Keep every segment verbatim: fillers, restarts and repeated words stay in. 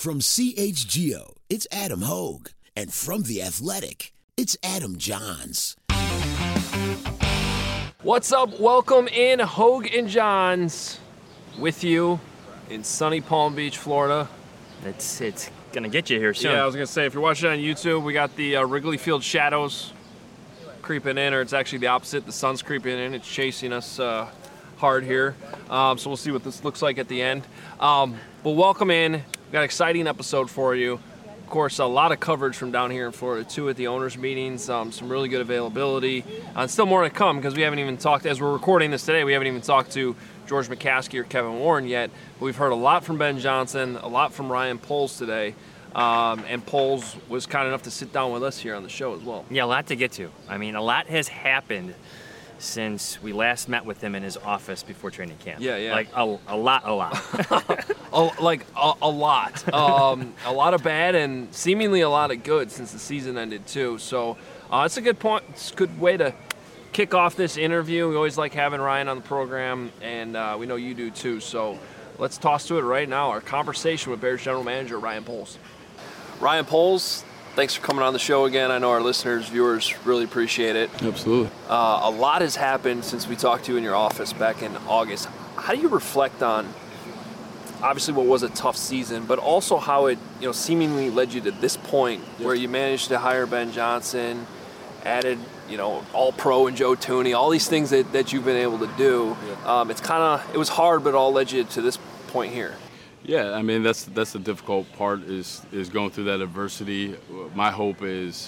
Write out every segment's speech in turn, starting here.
From C H G O, it's Adam Hogue. And from The Athletic, it's Adam Johns. What's up? Welcome in, Hogue and Johns, with you in sunny Palm Beach, Florida. It's it's gonna get you here soon. Yeah, I was gonna say, if you're watching on YouTube, we got the uh, Wrigley Field shadows creeping in, or it's actually the opposite. The sun's creeping in. It's chasing us uh, hard here. Um, so we'll see what this looks like at the end. Um, but welcome in. We got an exciting episode for you. Of course, a lot of coverage from down here in Florida, too, at the owners' meetings. Um, some really good availability. Uh, and still more to come, because we haven't even talked, as we're recording this today, we haven't even talked to George McCaskey or Kevin Warren yet. But we've heard a lot from Ben Johnson, a lot from Ryan Poles today. Um, and Poles was kind enough to sit down with us here on the show as well. Yeah, a lot to get to. I mean, a lot has happened since we last met with him in his office before training camp. Yeah, yeah. Like, a, a lot, a lot. a, like, a, a lot. Um, a lot of bad and seemingly a lot of good since the season ended, too. So uh, it's a good point. It's a good way to kick off this interview. We always like having Ryan on the program, and uh, we know you do, too. So let's toss to it right now, our conversation with Bears General Manager Ryan Poles. Ryan Poles, thanks for coming on the show again. I know our listeners, viewers really appreciate it. Absolutely. Uh, a lot has happened since we talked to you in your office back in August. How do you reflect on, obviously, what was a tough season, but also how it, you know, seemingly led you to this point yep. where you managed to hire Ben Johnson, added, you know, All-Pro and Joe Thuney, all these things that, that you've been able to do. Yep. Um, it's kind of, it was hard, but it all led you to this point here. Yeah, I mean, that's that's the difficult part is is going through that adversity. My hope is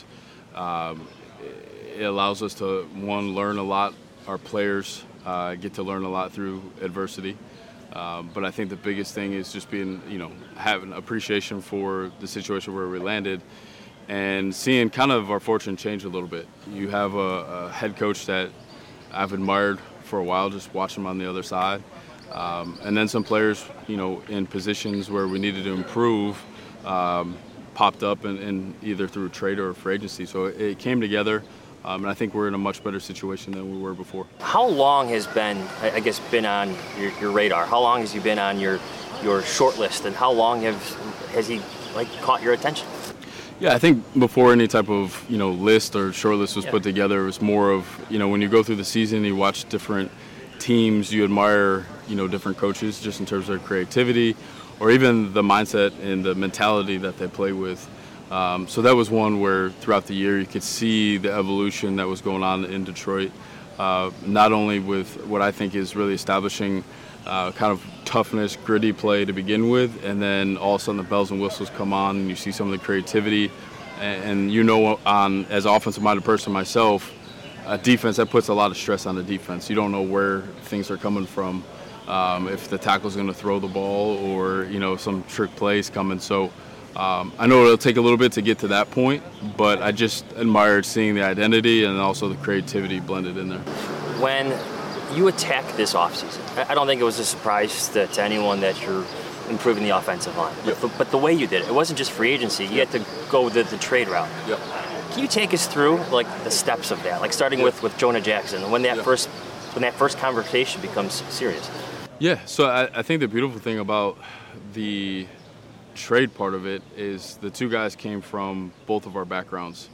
um, it allows us to, one, learn a lot. Our players uh, get to learn a lot through adversity. Um, but I think the biggest thing is just being, you know, having appreciation for the situation where we landed and seeing kind of our fortune change a little bit. You have a, a head coach that I've admired for a while, just watching him on the other side. Um, and then some players, you know, in positions where we needed to improve, um, popped up in, in either through trade or free agency. So it, it came together, um, and I think we're in a much better situation than we were before. How long has Ben, I guess, been on your, your radar? How long has he been on your your short list, and how long have has he like caught your attention? Yeah, I think before any type of, you know, list or short list was yeah. put together, it was more of, you know, when you go through the season, you watch different teams, you admire, you know, different coaches just in terms of their creativity or even the mindset and the mentality that they play with. Um, so that was one where throughout the year you could see the evolution that was going on in Detroit, uh, not only with what I think is really establishing uh, kind of toughness, gritty play to begin with, and then all of a sudden the bells and whistles come on and you see some of the creativity. And, and you know, on as an offensive-minded person myself, a defense, that puts a lot of stress on the defense. You don't know where things are coming from, um, if the tackle's going to throw the ball or, you know, some trick plays coming. So um, I know it'll take a little bit to get to that point, but I just admired seeing the identity and also the creativity blended in there. When you attack this offseason, I don't think it was a surprise to, to anyone that you're improving the offensive line. Yep. But, but the way you did it, it wasn't just free agency. You had to go the, the trade route. Yep. Can you take us through like the steps of that, like starting yeah. with, with Jonah Jackson, when that yeah. first when that first conversation becomes serious? Yeah, so I, I think the beautiful thing about the trade part of it is the two guys came from both of our backgrounds,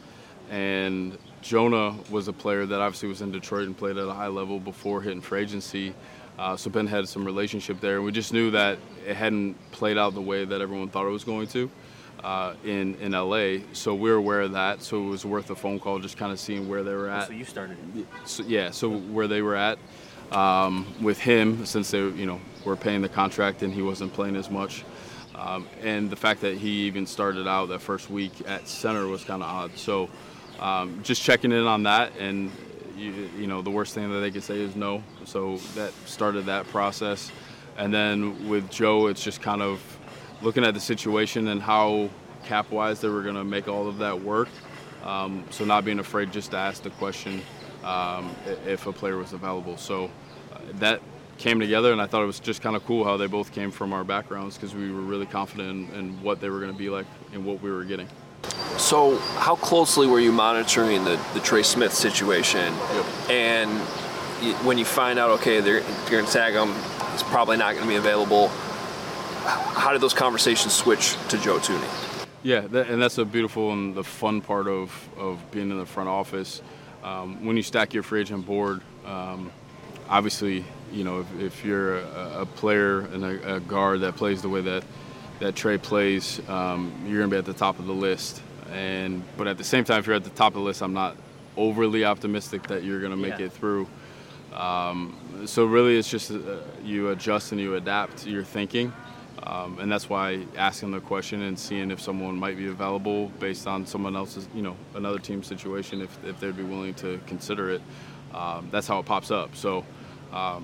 and Jonah was a player that obviously was in Detroit and played at a high level before hitting free agency. Uh, so Ben had some relationship there, and we just knew that it hadn't played out the way that everyone thought it was going to. Uh, in, in L A, so we were aware of that, so it was worth a phone call just kind of seeing where they were at. So you started it. So, yeah, so where they were at um, with him, since they, you know, were paying the contract and he wasn't playing as much. Um, and the fact that he even started out that first week at center was kind of odd. So um, just checking in on that, and you, you know, the worst thing that they could say is no. So that started that process. And then with Joe, it's just kind of looking at the situation and how cap-wise they were going to make all of that work. Um, so not being afraid just to ask the question um, if a player was available. So uh, that came together, and I thought it was just kind of cool how they both came from our backgrounds, because we were really confident in, in what they were going to be like and what we were getting. So how closely were you monitoring the, the Trey Smith situation? Yep. And when you find out, okay, they're, you're going to tag him, he's probably not going to be available, how did those conversations switch to Joe Thuney? Yeah, that, and that's a beautiful and the fun part of, of being in the front office. Um, when you stack your free agent board, um, obviously, you know, if, if you're a, a player and a, a guard that plays the way that, that Trey plays, um, you're going to be at the top of the list. And but at the same time, if you're at the top of the list, I'm not overly optimistic that you're going to make Yeah. it through. Um, so really, it's just uh, you adjust and you adapt your thinking. Um, and that's why asking the question and seeing if someone might be available based on someone else's, you know, another team's situation, if, if they'd be willing to consider it, um, that's how it pops up. So um,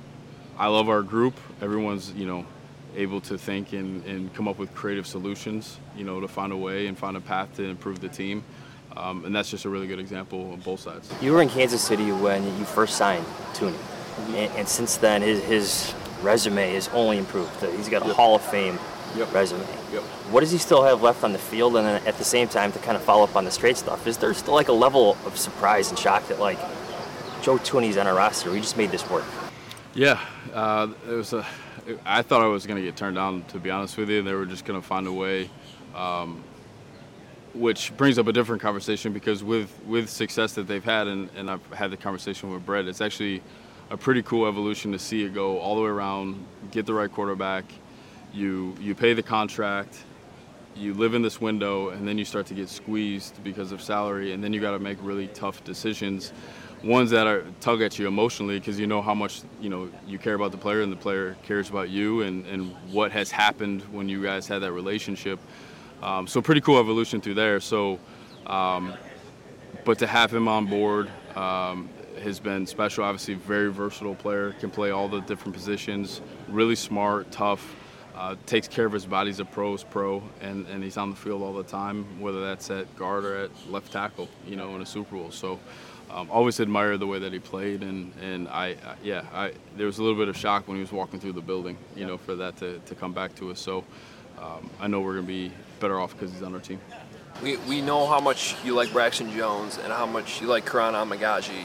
I love our group. Everyone's, you know, able to think and, and come up with creative solutions, you know, to find a way and find a path to improve the team. Um, and that's just a really good example on both sides. You were in Kansas City when you first signed Thuney, and, and since then his, his resume has only improved. He's got a Yep. Hall of Fame Yep. resume. Yep. What does he still have left on the field? And then at the same time, to kind of follow up on the straight stuff, is there still like a level of surprise and shock that like Joe Thuney's on our roster? We just made this work. Yeah, uh, it was a. I thought I was going to get turned down, to be honest with you. They were just going to find a way, um, which brings up a different conversation because with, with success that they've had, and, and I've had the conversation with Brett, it's actually a pretty cool evolution to see it go all the way around, get the right quarterback, you you pay the contract, you live in this window, and then you start to get squeezed because of salary, and then you got to make really tough decisions. Ones that are tug at you emotionally because you know how much you know you care about the player and the player cares about you and, and what has happened when you guys had that relationship. Um, so pretty cool evolution through there. So, um, but to have him on board um, has been special. Obviously, very versatile player, can play all the different positions. Really smart, tough, uh, takes care of his body. He's a pro's pro, and, and he's on the field all the time, whether that's at guard or at left tackle. You know, in a Super Bowl. So. Um, always admired the way that he played, and, and I, I yeah, I, there was a little bit of shock when he was walking through the building, you know, for that to, to come back to us. So um, I know we're going to be better off because he's on our team. We, we know how much you like Braxton Jones and how much you like Karan Amagaji.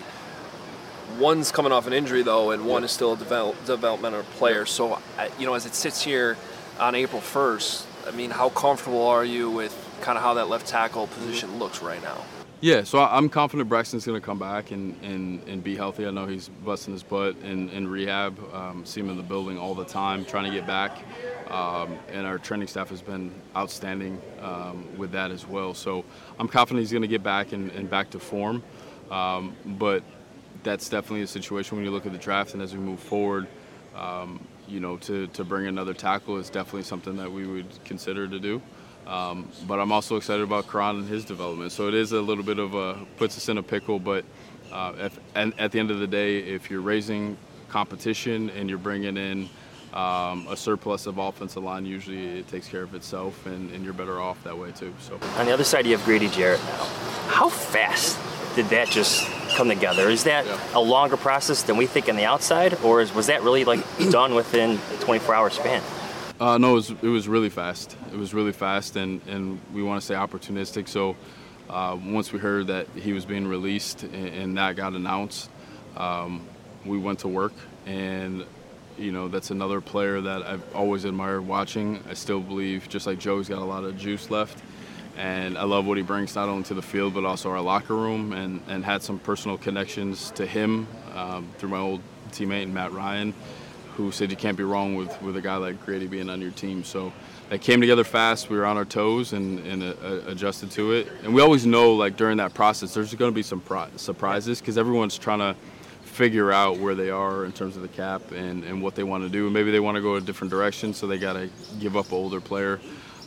One's coming off an injury, though, and one is still a develop, developmental player. So, you know, as it sits here on April first, I mean, how comfortable are you with kind of how that left tackle position looks right now? Yeah, so I'm confident Braxton's going to come back and, and, and be healthy. I know he's busting his butt in, in rehab. Um, see him in the building all the time, trying to get back. Um, and our training staff has been outstanding um, with that as well. So I'm confident he's going to get back and, and back to form. Um, but that's definitely a situation when you look at the draft and as we move forward, um, you know, to, to bring another tackle is definitely something that we would consider to do. Um, but I'm also excited about Karan and his development. So it is a little bit of a, puts us in a pickle, but uh, if, and at the end of the day, if you're raising competition and you're bringing in um, a surplus of offensive line, usually it takes care of itself, and, and you're better off that way too. So On the other side, you have Grady Jarrett now. How fast did that just come together? Is that Yeah. a longer process than we think on the outside, or is, was that really like done within a twenty-four hour span? Uh, no, it was, it was really fast. It was really fast, and, and we want to say opportunistic. So uh, once we heard that he was being released and, and that got announced, um, we went to work. And, you know, that's another player that I've always admired watching. I still believe, just like Joe's got a lot of juice left. And I love what he brings not only to the field but also our locker room, and, and had some personal connections to him um, through my old teammate Matt Ryan, who said you can't be wrong with, with a guy like Grady being on your team. So that came together fast. We were on our toes and, and uh, adjusted to it. And we always know, like, during that process, there's going to be some pri- surprises because everyone's trying to figure out where they are in terms of the cap and, and what they want to do. Maybe they want to go a different direction, so they got to give up an older player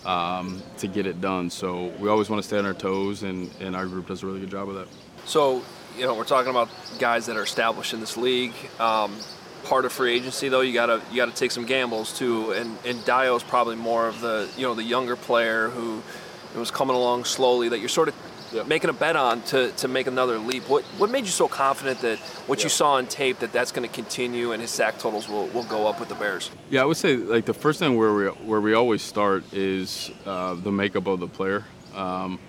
um, to get it done. So we always want to stay on our toes, and, and our group does a really good job of that. So, you know, we're talking about guys that are established in this league. Um, part of free agency, though, you gotta you gotta take some gambles too. And and Dio's probably more of the you know the younger player who was coming along slowly that you're sort of Yeah. making a bet on to, to make another leap. What what made you so confident that what Yeah. you saw on tape that that's going to continue and his sack totals will, will go up with the Bears? Yeah, I would say like the first thing where we where we always start is uh, the makeup of the player, um,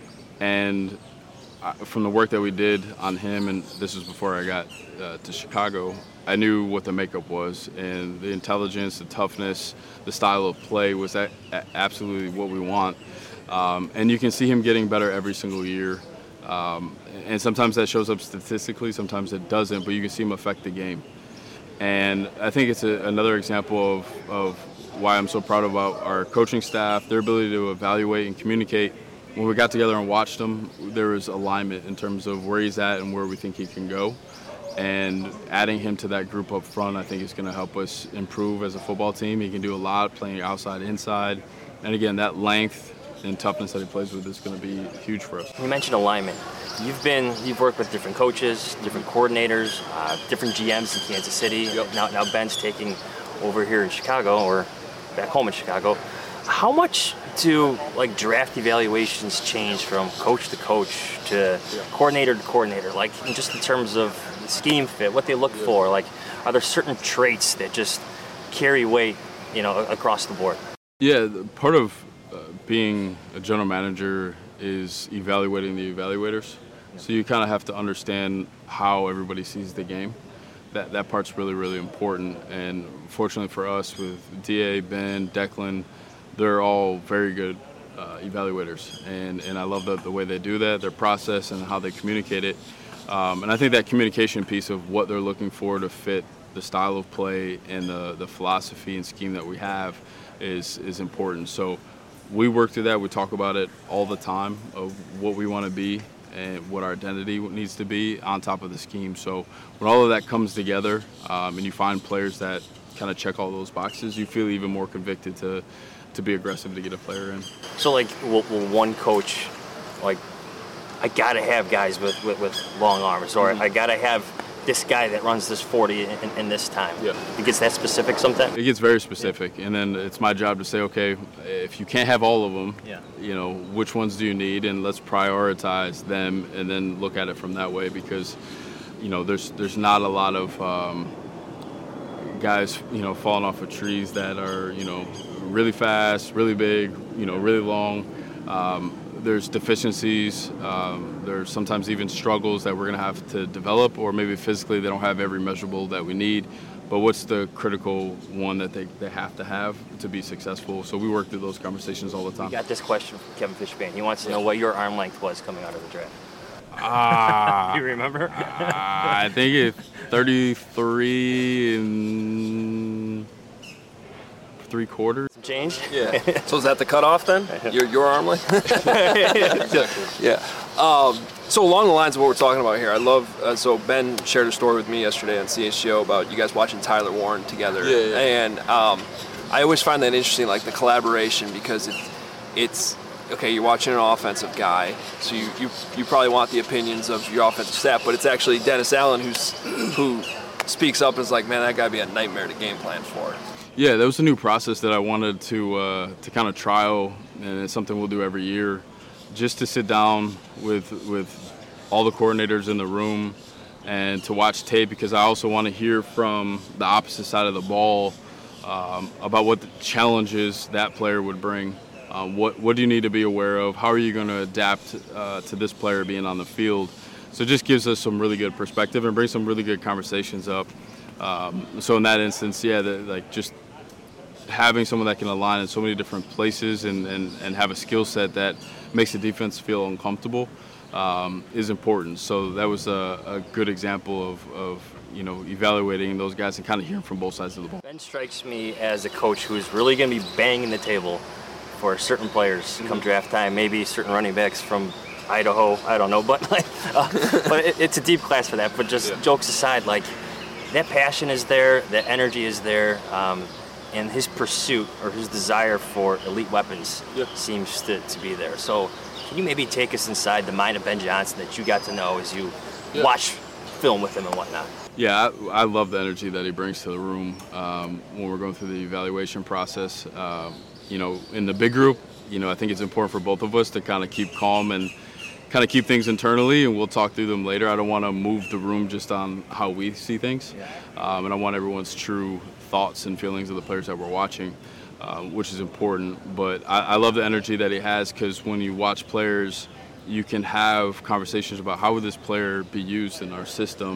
and I, from the work that we did on him, and this was before I got uh, to Chicago, I knew what the makeup was, and the intelligence, the toughness, the style of play was a- a- absolutely what we want. Um, and you can see him getting better every single year. Um, and sometimes that shows up statistically, sometimes it doesn't, but you can see him affect the game. And I think it's a, another example of, of why I'm so proud about our coaching staff, their ability to evaluate and communicate. When we got together and watched him, there was alignment in terms of where he's at and where we think he can go. And adding him to that group up front, I think is going to help us improve as a football team. He can do a lot playing outside, inside. And again, that length and toughness that he plays with is going to be huge for us. You mentioned alignment. You've been, you've worked with different coaches, different coordinators, uh, different G Ms in Kansas City. Yep. Now, now Ben's taking over here in Chicago, or back home in Chicago. How much do like draft evaluations change from coach to coach to yeah. coordinator to coordinator? Like just in terms of scheme fit, what they look yeah. for. Like, are there certain traits that just carry weight, you know, across the board? Yeah, part of uh, being a general manager is evaluating the evaluators. Yeah. So you kind of have to understand how everybody sees the game. That that part's really, really important. And fortunately for us, with D A, Ben, Declan, they're all very good uh, evaluators. And, and I love the, the way they do that, their process and how they communicate it. Um, and I think that communication piece of what they're looking for to fit the style of play and the, the philosophy and scheme that we have is is important. So we work through that. We talk about it all the time of what we want to be and what our identity needs to be on top of the scheme. So when all of that comes together um, and you find players that kind of check all those boxes, you feel even more convicted to, to be aggressive to get a player in. So like will, will one coach, like, I got to have guys with, with, with long arms, or mm-hmm. I got to have this guy that runs this forty in, in this time. Yeah. It gets that specific sometimes? It gets very specific, yeah. And then it's my job to say, okay, if you can't have all of them, yeah. you know, which ones do you need, and let's prioritize them and then look at it from that way, because, you know, there's there's not a lot of um, guys, you know, falling off of trees that are, you know, really fast, really big, you know, really long. Um, There's deficiencies, um, there's sometimes even struggles that we're going to have to develop, or maybe physically they don't have every measurable that we need. But what's the critical one that they, they have to have to be successful? So we work through those conversations all the time. We got this question from Kevin Fishbane. He wants to know what your arm length was coming out of the draft. Ah, uh, you remember? uh, I think it's thirty-three and three quarters. Some change? Yeah. So is that the cutoff then? Your your arm length? Exactly. Yeah. Um, so along the lines of what we're talking about here, I love. Uh, so Ben shared a story with me yesterday on C H G O about you guys watching Tyler Warren together, yeah, yeah. and um, I always find that interesting, like the collaboration, because it, it's okay. You're watching an offensive guy, so you, you you probably want the opinions of your offensive staff, but it's actually Dennis Allen who's who speaks up and is like, man, that gotta be a nightmare to game plan for. Yeah, that was a new process that I wanted to uh, to kind of trial, and it's something we'll do every year, just to sit down with with all the coordinators in the room and to watch tape, because I also want to hear from the opposite side of the ball um, about what the challenges that player would bring. Um, what what do you need to be aware of? How are you going to adapt uh, to this player being on the field? So it just gives us some really good perspective and brings some really good conversations up. Um, so in that instance, yeah, the, like just having someone that can align in so many different places and, and, and have a skill set that makes the defense feel uncomfortable um, is important. So that was a, a good example of, of, you know, evaluating those guys and kind of hearing from both sides of the ball. Ben strikes me as a coach who's really going to be banging the table for certain players mm-hmm. come draft time, maybe certain running backs from Idaho, I don't know, but like, uh, but it, it's a deep class for that. But just yeah. jokes aside, like, that passion is there, that energy is there, um, and his pursuit or his desire for elite weapons yeah. seems to, to be there. So can you maybe take us inside the mind of Ben Johnson that you got to know as you yeah. watch film with him and whatnot? Yeah, I, I love the energy that he brings to the room um, when we're going through the evaluation process. Uh, you know, in the big group, you know, I think it's important for both of us to kind of keep calm and kind of keep things internally, and we'll talk through them later. I don't want to move the room just on how we see things, yeah. um, and I want everyone's true thoughts and feelings of the players that we're watching, uh, which is important. But I, I love the energy that he has, because when you watch players, you can have conversations about how would this player be used in our system,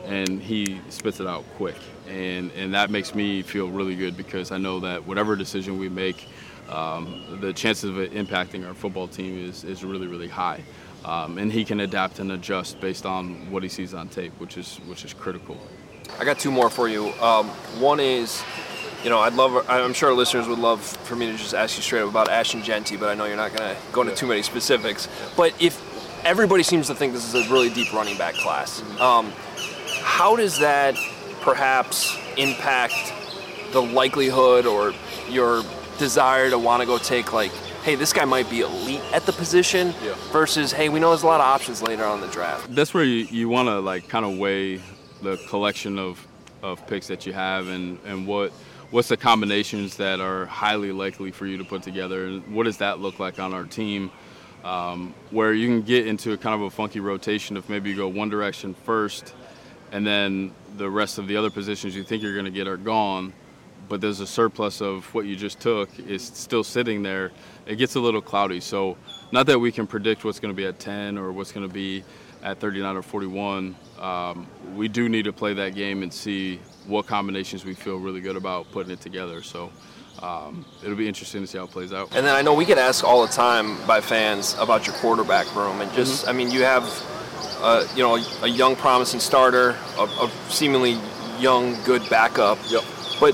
and he spits it out quick. And, and that makes me feel really good because I know that whatever decision we make, um, the chances of it impacting our football team is, is really, really high. Um, and he can adapt and adjust based on what he sees on tape, which is which is critical. I got two more for you. Um, one is, you know, I'd love, I'm sure our listeners would love for me to just ask you straight up about Ashton Jeanty, but I know you're not going to go into too many specifics. But if everybody seems to think this is a really deep running back class, um, how does that perhaps impact the likelihood or your desire to want to go take, like, hey, this guy might be elite at the position, yeah, versus, hey, we know there's a lot of options later on in the draft? That's where you, you want to, like, kind of weigh the collection of, of picks that you have and, and what what's the combinations that are highly likely for you to put together, and what does that look like on our team, um, where you can get into a kind of a funky rotation if maybe you go one direction first and then the rest of the other positions you think you're going to get are gone, but there's a surplus of what you just took is still sitting there. It gets a little cloudy. So not that we can predict what's going to be at ten or what's going to be at thirty-nine or forty-one. Um, we do need to play that game and see what combinations we feel really good about putting it together. So um, it'll be interesting to see how it plays out. And then I know we get asked all the time by fans about your quarterback room. And just, mm-hmm. I mean, you have, uh, you know, a young promising starter, a, a seemingly young, good backup. Yep. But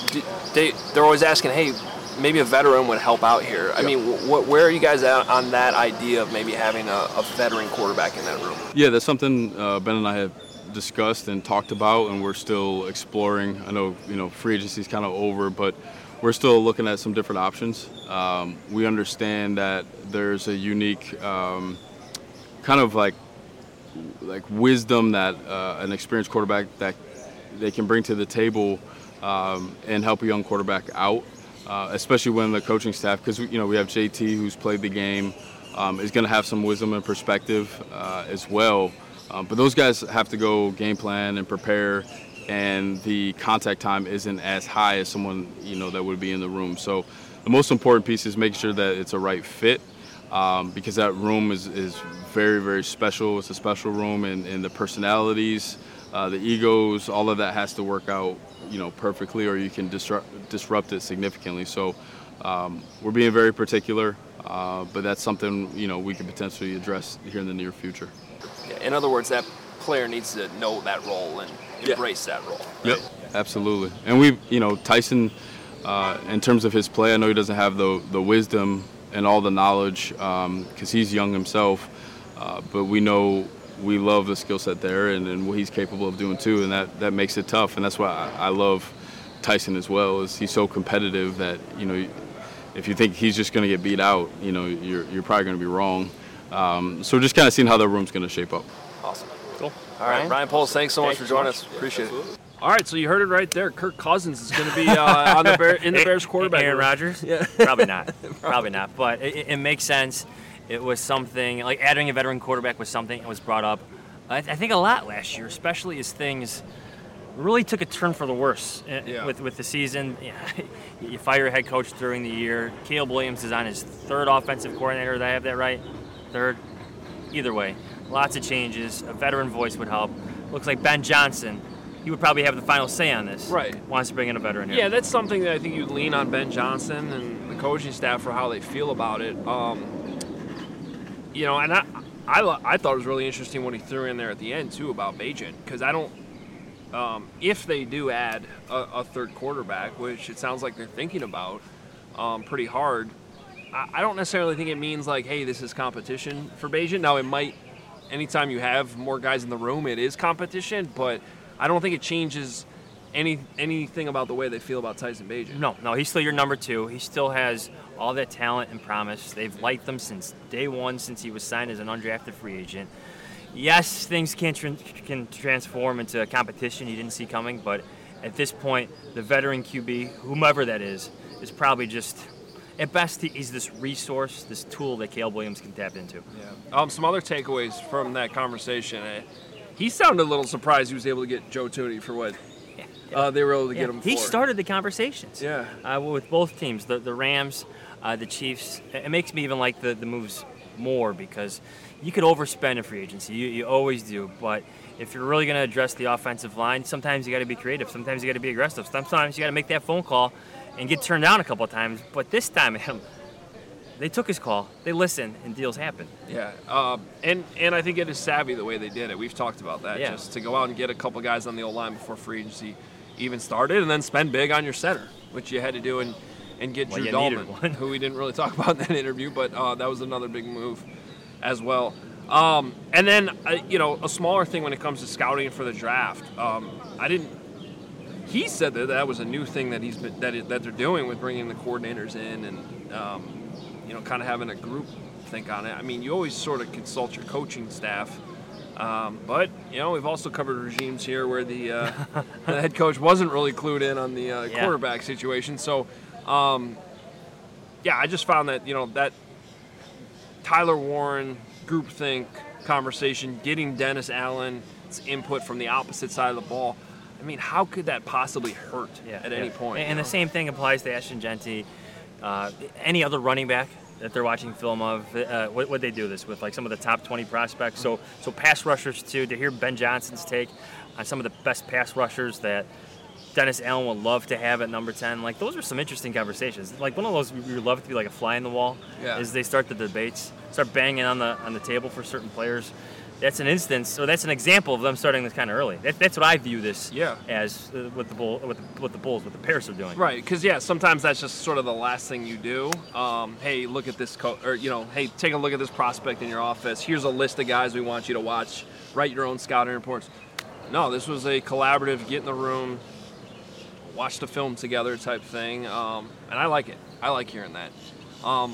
they, they're always asking, hey, maybe a veteran would help out here. I yep. mean, wh- where are you guys at on that idea of maybe having a, a veteran quarterback in that room? Yeah, that's something uh, Ben and I have discussed and talked about, and we're still exploring. I know, you know, free agency is kind of over, but we're still looking at some different options. Um, we understand that there's a unique um, kind of like like wisdom that uh, an experienced quarterback that they can bring to the table um, and help a young quarterback out. Uh, especially when the coaching staff, because you know we have J T who's played the game, um, is going to have some wisdom and perspective uh, as well. Um, but those guys have to go game plan and prepare, and the contact time isn't as high as someone you know that would be in the room. So the most important piece is make sure that it's a right fit, um, because that room is, is very, very special. It's a special room, and, and the personalities, uh, the egos, all of that has to work out you know, perfectly, or you can disrupt disrupt it significantly. So um, we're being very particular, uh, but that's something you know we could potentially address here in the near future. Yeah, in other words, that player needs to know that role and embrace yeah. that role. Right? Yep, absolutely. And we, you know, Tyson, uh, in terms of his play, I know he doesn't have the the wisdom and all the knowledge because um, he's young himself, uh, but we know. We love the skill set there and, and what he's capable of doing too, and that, that makes it tough. And that's why I, I love Tyson as well. Is he's so competitive that you know, if you think he's just going to get beat out, you know, you're you're probably going to be wrong. Um, so just kind of seeing how the room's going to shape up. Awesome. Cool. All right, Ryan Poles, thanks so much Thanks for joining so much. us. Appreciate Absolutely. it. All right, so you heard it right there. Kirk Cousins is going to be uh, on the Bear, in the Bears quarterback. Aaron room. Rodgers? Yeah. Probably not. Probably not. But it, it makes sense. It was something like adding a veteran quarterback was something that was brought up. I think a lot last year, especially as things really took a turn for the worse yeah. with with the season. You fire a head coach during the year. Caleb Williams is on his third offensive coordinator. Did I have that right? Third? Either way, lots of changes. A veteran voice would help. Looks like Ben Johnson, he would probably have the final say on this. Right. Wants to bring in a veteran here. Yeah, that's something that I think you'd lean on Ben Johnson and the coaching staff for how they feel about it. Um, you know, and I... I, I thought it was really interesting what he threw in there at the end, too, about Bagent, because I don't um, – if they do add a, a third quarterback, which it sounds like they're thinking about um, pretty hard, I, I don't necessarily think it means, like, hey, this is competition for Bagent. Now, it might – anytime you have more guys in the room, it is competition, but I don't think it changes any anything about the way they feel about Tyson Bagent. No, no, he's still your number two. He still has – all that talent and promise. They've liked him since day one, since he was signed as an undrafted free agent. Yes, things can tra- can transform into a competition you didn't see coming, but at this point, the veteran Q B, whomever that is, is probably just, at best, he's this resource, this tool that Caleb Williams can tap into. Yeah. Um, some other takeaways from that conversation. Uh, he sounded a little surprised he was able to get Joe Tooney for what yeah. uh, they were able to yeah. get him for. He started the conversations. Yeah. Uh, with both teams, the the Rams. Uh, the Chiefs, it makes me even like the, the moves more because you could overspend in free agency. You, you always do. But if you're really going to address the offensive line, sometimes you got to be creative. Sometimes you got to be aggressive. Sometimes you got to make that phone call and get turned down a couple of times. But this time, Adam, they took his call, they listened, and deals happened. Yeah, um, and and I think it is savvy the way they did it. We've talked about that. Yeah. Just to go out and get a couple guys on the O-line before free agency even started, and then spend big on your center, which you had to do, and, and get Well, Drew you Dahlman, needed one. who we didn't really talk about in that interview, but uh, that was another big move as well. Um, and then, uh, you know, a smaller thing when it comes to scouting for the draft. Um, I didn't. He said that that was a new thing that he's been, that it, that they're doing with bringing the coordinators in and um, you know, kind of having a group think on it. I mean, you always sort of consult your coaching staff, um, but you know, we've also covered regimes here where the, uh, the head coach wasn't really clued in on the uh, Yeah. quarterback situation. So, um, yeah, I just found that you know that Tyler Warren groupthink conversation, getting Dennis Allen's input from the opposite side of the ball. I mean, how could that possibly hurt Yeah, at yeah. any point? And, you know? the same thing applies to Ashton Genty. Uh, any other running back that they're watching film of, uh, what would they do this with? Like some of the top twenty prospects. So, so pass rushers too. To hear Ben Johnson's take on some of the best pass rushers that Dennis Allen would love to have at number ten. Like those are some interesting conversations. Like one of those we would love to be like a fly in the wall. Yeah. As they start the debates, start banging on the on the table for certain players. That's an instance, or that's an example of them starting this kind of early. That, that's what I view this Yeah. as uh, with the bull, with the, with the Bulls, what the Bears are doing. Right, because yeah, sometimes that's just sort of the last thing you do. Um, hey, look at this, co- or you know, hey, take a look at this prospect in your office. Here's a list of guys we want you to watch. Write your own scouting reports. No, this was a collaborative, get in the room, watch the film together type thing, um, and I like it. I like hearing that. Um,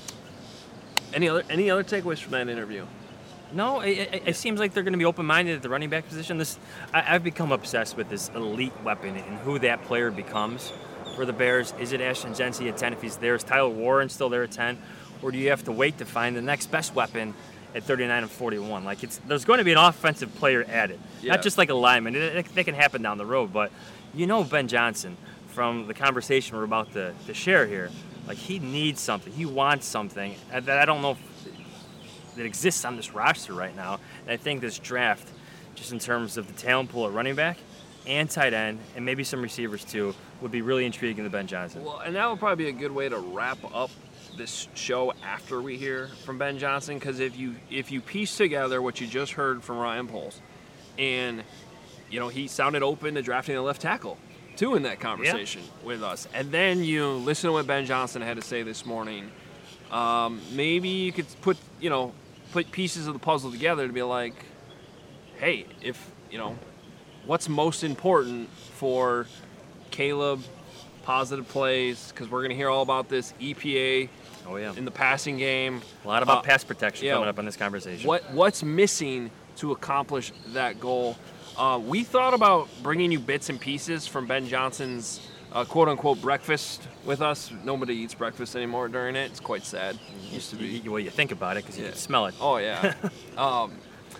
any other any other takeaways from that interview? No, it, it, it seems like they're going to be open-minded at the running back position. This, I, I've become obsessed with this elite weapon and who that player becomes for the Bears. Is it Ashton Genty at ten if he's there? Is Tyler Warren still there at ten? Or do you have to wait to find the next best weapon at thirty-nine and forty-one? Like it's, there's going to be an offensive player added, Yeah. not just like a lineman. It, it, that can happen down the road, but you know Ben Johnson from the conversation we're about to, to share here. Like he needs something. He wants something that I don't know if that exists on this roster right now. And I think this draft, just in terms of the talent pool at running back and tight end, and maybe some receivers too, would be really intriguing to Ben Johnson. Well, and that would probably be a good way to wrap up this show after we hear from Ben Johnson, because if you if you piece together what you just heard from Ryan Poles, and you know he sounded open to drafting a left tackle too in that conversation with us, and then you listen to what Ben Johnson had to say this morning, um, maybe you could put you know put pieces of the puzzle together to be like, hey, if you know what's most important for Caleb, positive plays, because we're going to hear all about this E P A Oh yeah, in the passing game. a lot about Uh, pass protection yeah, coming up in this conversation. What What's missing to accomplish that goal? Uh, we thought about bringing you bits and pieces from Ben Johnson's uh, quote-unquote breakfast with us. Nobody eats breakfast anymore during it. It's quite sad. It used to be. You, you, well, you think about it because you Yeah. can smell it. Oh, yeah. um,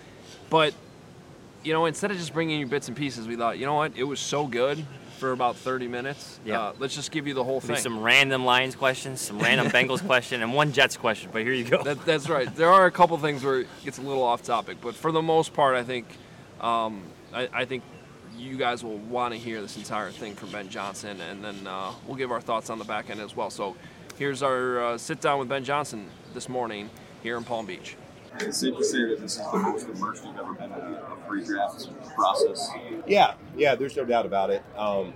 but, you know, instead of just bringing you bits and pieces, we thought, you know what? It was so good for about thirty minutes. Yeah. Uh, let's just give you the whole Maybe thing. some random Lions questions, some random Bengals question, and one Jets question. But here you go. That, that's right. There are a couple things where it gets a little off topic, but for the most part, I think, um, I, I think you guys will want to hear this entire thing from Ben Johnson, and then uh, we'll give our thoughts on the back end as well. So here's our uh, sit down with Ben Johnson this morning here in Palm Beach. It's safe to say that this is the most immersed you've ever been in a, a pre-draft process. Yeah, yeah, there's no doubt about it. Um,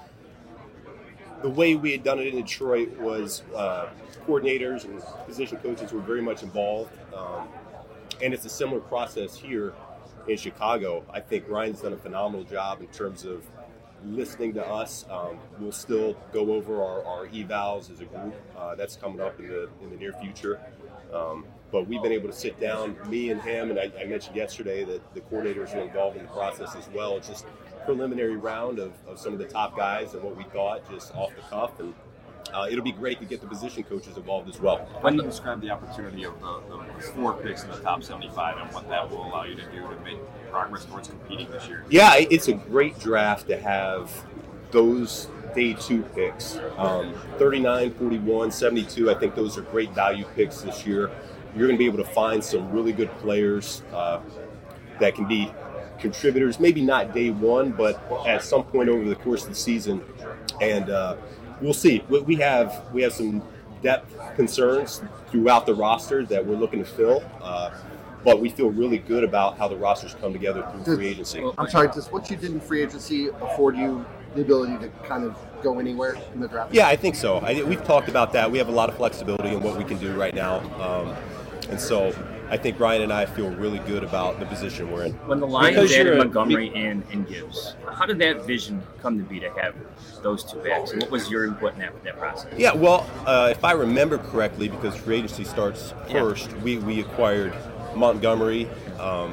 the way we had done it in Detroit was uh, coordinators and position coaches were very much involved. Um, and it's a similar process here in Chicago. I think Ryan's done a phenomenal job in terms of listening to us. Um, we'll still go over our, our evals as a group. Uh, that's coming up in the in the near future. Um, but we've been able to sit down, me and him, and I, I mentioned yesterday that the coordinators are involved in the process as well. It's just a preliminary round of, of some of the top guys and what we thought just off the cuff. And uh, it'll be great to get the position coaches involved as well. When you describe the opportunity of the, the four picks in the top seventy-five and what that will allow you to do to make progress towards competing this year. Yeah, it's a great draft to have those day two picks. Um, thirty-nine, forty-one, seventy-two, I think those are great value picks this year. You're going to be able to find some really good players uh, that can be contributors, maybe not day one, but at some point over the course of the season. And uh, we'll see. We we have we have some depth concerns throughout the roster that we're looking to fill. Uh, But we feel really good about how the rosters come together through free agency. I'm sorry, does what you did in free agency afford you the ability to kind of go anywhere in the draft? Yeah, I think so. I, we've talked about that. We have a lot of flexibility in what we can do right now. Um, and so I think Ryan and I feel really good about the position we're in. When the Lions added Montgomery and, and Gibbs, how did that vision come to be to have those two backs? And what was your input in that, that process? Yeah, well, uh, if I remember correctly, because free agency starts first, yeah. we, we acquired Montgomery. Um,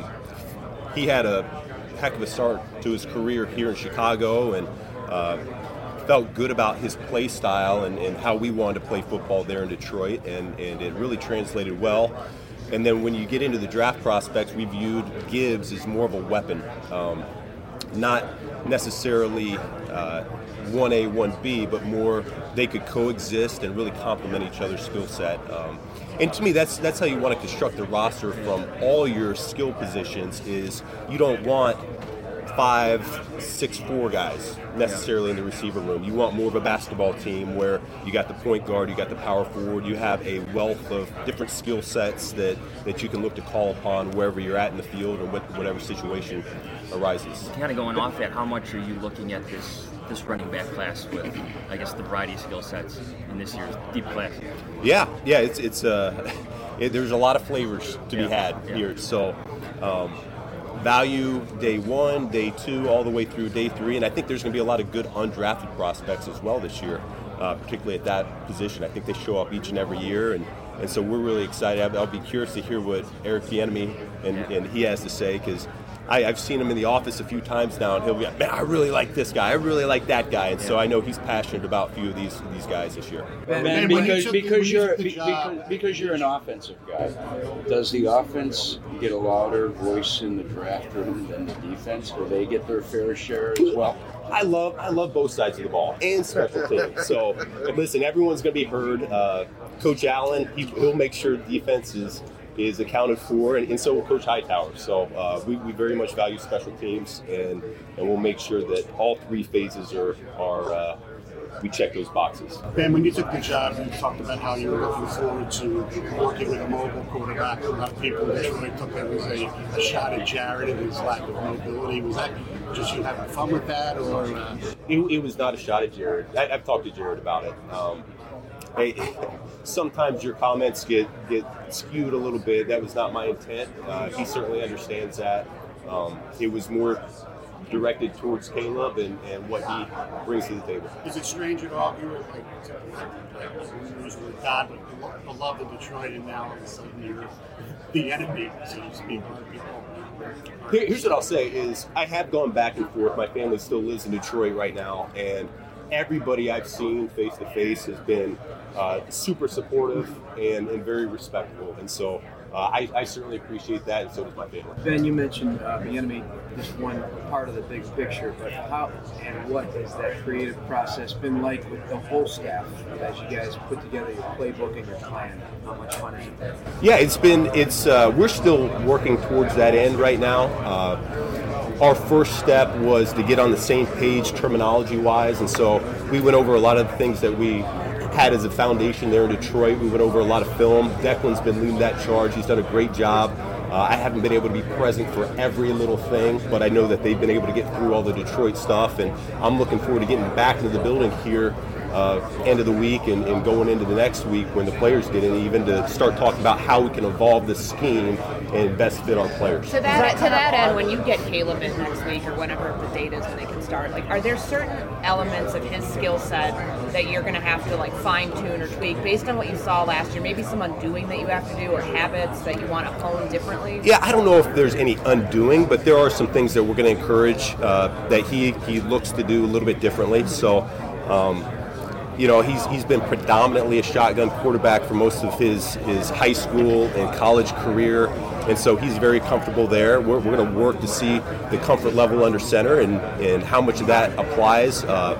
he had a heck of a start to his career here in Chicago, and uh, felt good about his play style and, and how we wanted to play football there in Detroit, and, and it really translated well. And then when you get into the draft prospects, we viewed Gibbs as more of a weapon, um, not necessarily uh, one A, one B, but more they could coexist and really complement each other's skill set. Um, And to me, that's that's how you want to construct a roster from all your skill positions. Is you don't want five, six, four guys necessarily in the receiver room. You want more of a basketball team where you got the point guard, you got the power forward, you have a wealth of different skill sets that, that you can look to call upon wherever you're at in the field or whatever situation arises. Kind of going off that, how much are you looking at this this running back class with, I guess, the variety of skill sets in this year's deep class? Yeah, yeah, it's it's uh, it, there's a lot of flavors to yeah. be had yeah. here. So, um, value day one, day two, all the way through day three, and I think there's going to be a lot of good undrafted prospects as well this year, uh, particularly at that position. I think they show up each and every year, and, and so we're really excited. I'll, I'll be curious to hear what Eric Bieniemy and, yeah. and he has to say, because I, I've seen him in the office a few times now, and he'll be like, man, I really like this guy. I really like that guy. And yeah. so I know he's passionate about a few of these these guys this year. Ben, ben because you because you're because, because you're an offensive guy, does the offense get a louder voice in the draft room than the defense? Will they get their fair share as well? I love I love both sides of the ball and special teams. So listen, everyone's going to be heard. Uh, Coach Allen, he, he'll make sure defense is is accounted for, and, and so will Coach Hightower. So uh, we, we very much value special teams, and, and we'll make sure that all three phases are, are uh, we check those boxes. Ben, when you took the job, you talked about how you were looking forward to working with a mobile quarterback. A lot of people in Detroit took that as a, a shot at Jared and his lack of mobility. Was that just you having fun with that, or? Uh... It, it was not a shot at Jared. I, I've talked to Jared about it. Um, Hey, sometimes your comments get, get skewed a little bit. That was not my intent. Uh, he certainly understands that. Um, it was more directed towards Caleb and, and what he brings to the table. Is it strange at all? You were like, like God, beloved of Detroit, and now all of a sudden you're the enemy, so to speak. Here's what I'll say is I have gone back and forth. My family still lives in Detroit right now, and everybody I've seen face to face has been uh, super supportive and, and very respectful, and so uh, I, I certainly appreciate that, and so does my family. Ben, you mentioned uh, Bieniemy, just one part of the big picture, but how and what has that creative process been like with the whole staff as you guys put together your playbook and your plan? How much fun is it? Yeah, it's been it's uh, we're still working towards that end right now. Uh, Our first step was to get on the same page terminology-wise, and so we went over a lot of the things that we had as a foundation there in Detroit. We went over a lot of film. Declan's been leading that charge. He's done a great job. Uh, I haven't been able to be present for every little thing, but I know that they've been able to get through all the Detroit stuff, and I'm looking forward to getting back into the building here uh, end of the week and, and going into the next week when the players get in, even to start talking about how we can evolve the scheme and best fit our players. To that, to that end, when you get Caleb in next week or whenever the date is when they can start, like, are there certain elements of his skill set that you're going to have to like fine tune or tweak based on what you saw last year? Maybe some undoing that you have to do, or habits that you want to hone differently? Yeah, I don't know if there's any undoing, but there are some things that we're going to encourage uh, that he he looks to do a little bit differently. So. Um, You know, he's he's been predominantly a shotgun quarterback for most of his, his high school and college career, and so he's very comfortable there. We're, we're going to work to see the comfort level under center and, and how much of that applies. Uh,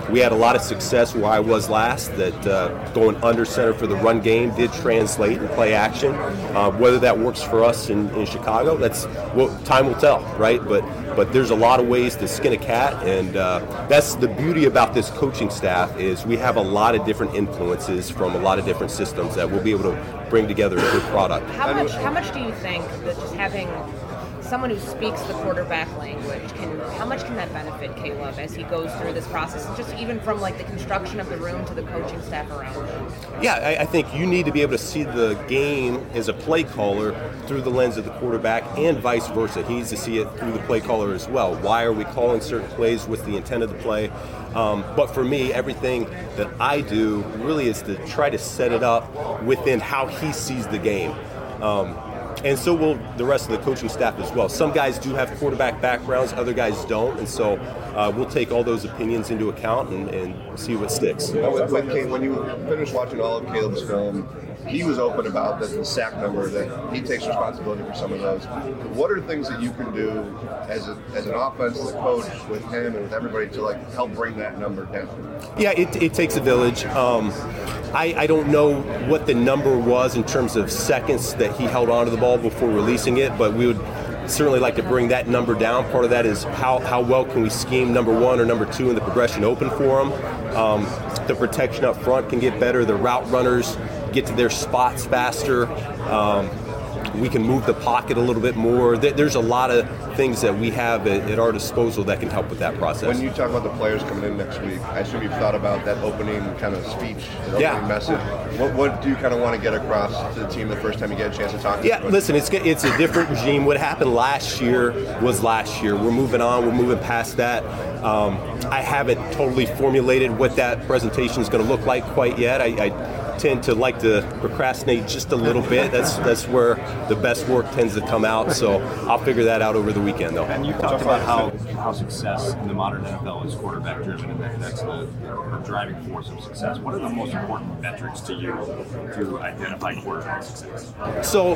we had a lot of success where I was last, that uh, going under center for the run game did translate in play action. Uh, whether that works for us in, in Chicago, that's what time will tell, right? But but there's a lot of ways to skin a cat, and uh, that's the beauty about this coaching staff is we have a lot of different influences from a lot of different systems that we'll be able to bring together a good product. How much, how much do you think that just having someone who speaks the quarterback language, can how much can that benefit Caleb as he goes through this process, and just even from like the construction of the room to the coaching staff around him? Yeah, I, I think you need to be able to see the game as a play caller through the lens of the quarterback, and vice versa. He needs to see it through the play caller as well. Why are we calling certain plays? What's the intent of the play? Um, but for me, everything that I do really is to try to set it up within how he sees the game. Um, And so will the rest of the coaching staff as well. Some guys do have quarterback backgrounds, other guys don't, and so uh, we'll take all those opinions into account and, and see what sticks. With, with Caleb, when you finished watching all of Caleb's film, he was open about the, the sack number, that he takes responsibility for some of those. What are things that you can do as a, as an offense, the coach, with him and with everybody to like help bring that number down? Yeah, it, it takes a village. Um, I, I don't know what the number was in terms of seconds that he held onto the ball before releasing it, but we would certainly like to bring that number down. Part of that is how, how well can we scheme number one or number two in the progression open for him. Um, the protection up front can get better. The route runners get to their spots faster. Um, we can move the pocket a little bit more. There's a lot of things that we have at, at our disposal that can help with that process. When you talk about the players coming in next week, I assume you've thought about that opening kind of speech, that opening yeah. message. What, what do you kind of want to get across to the team the first time you get a chance to talk to Yeah, them? listen, it's it's a different regime. What happened last year was last year. We're moving on. We're moving past that. Um, I haven't totally formulated what that presentation is going to look like quite yet. I, I tend to like to procrastinate just a little bit. That's that's where the best work tends to come out. So I'll figure that out over the weekend, though. And you talked about how, how success in the modern N F L is quarterback driven, and that, that's the, the driving force of success. What are the most important metrics to you to identify quarterback success? So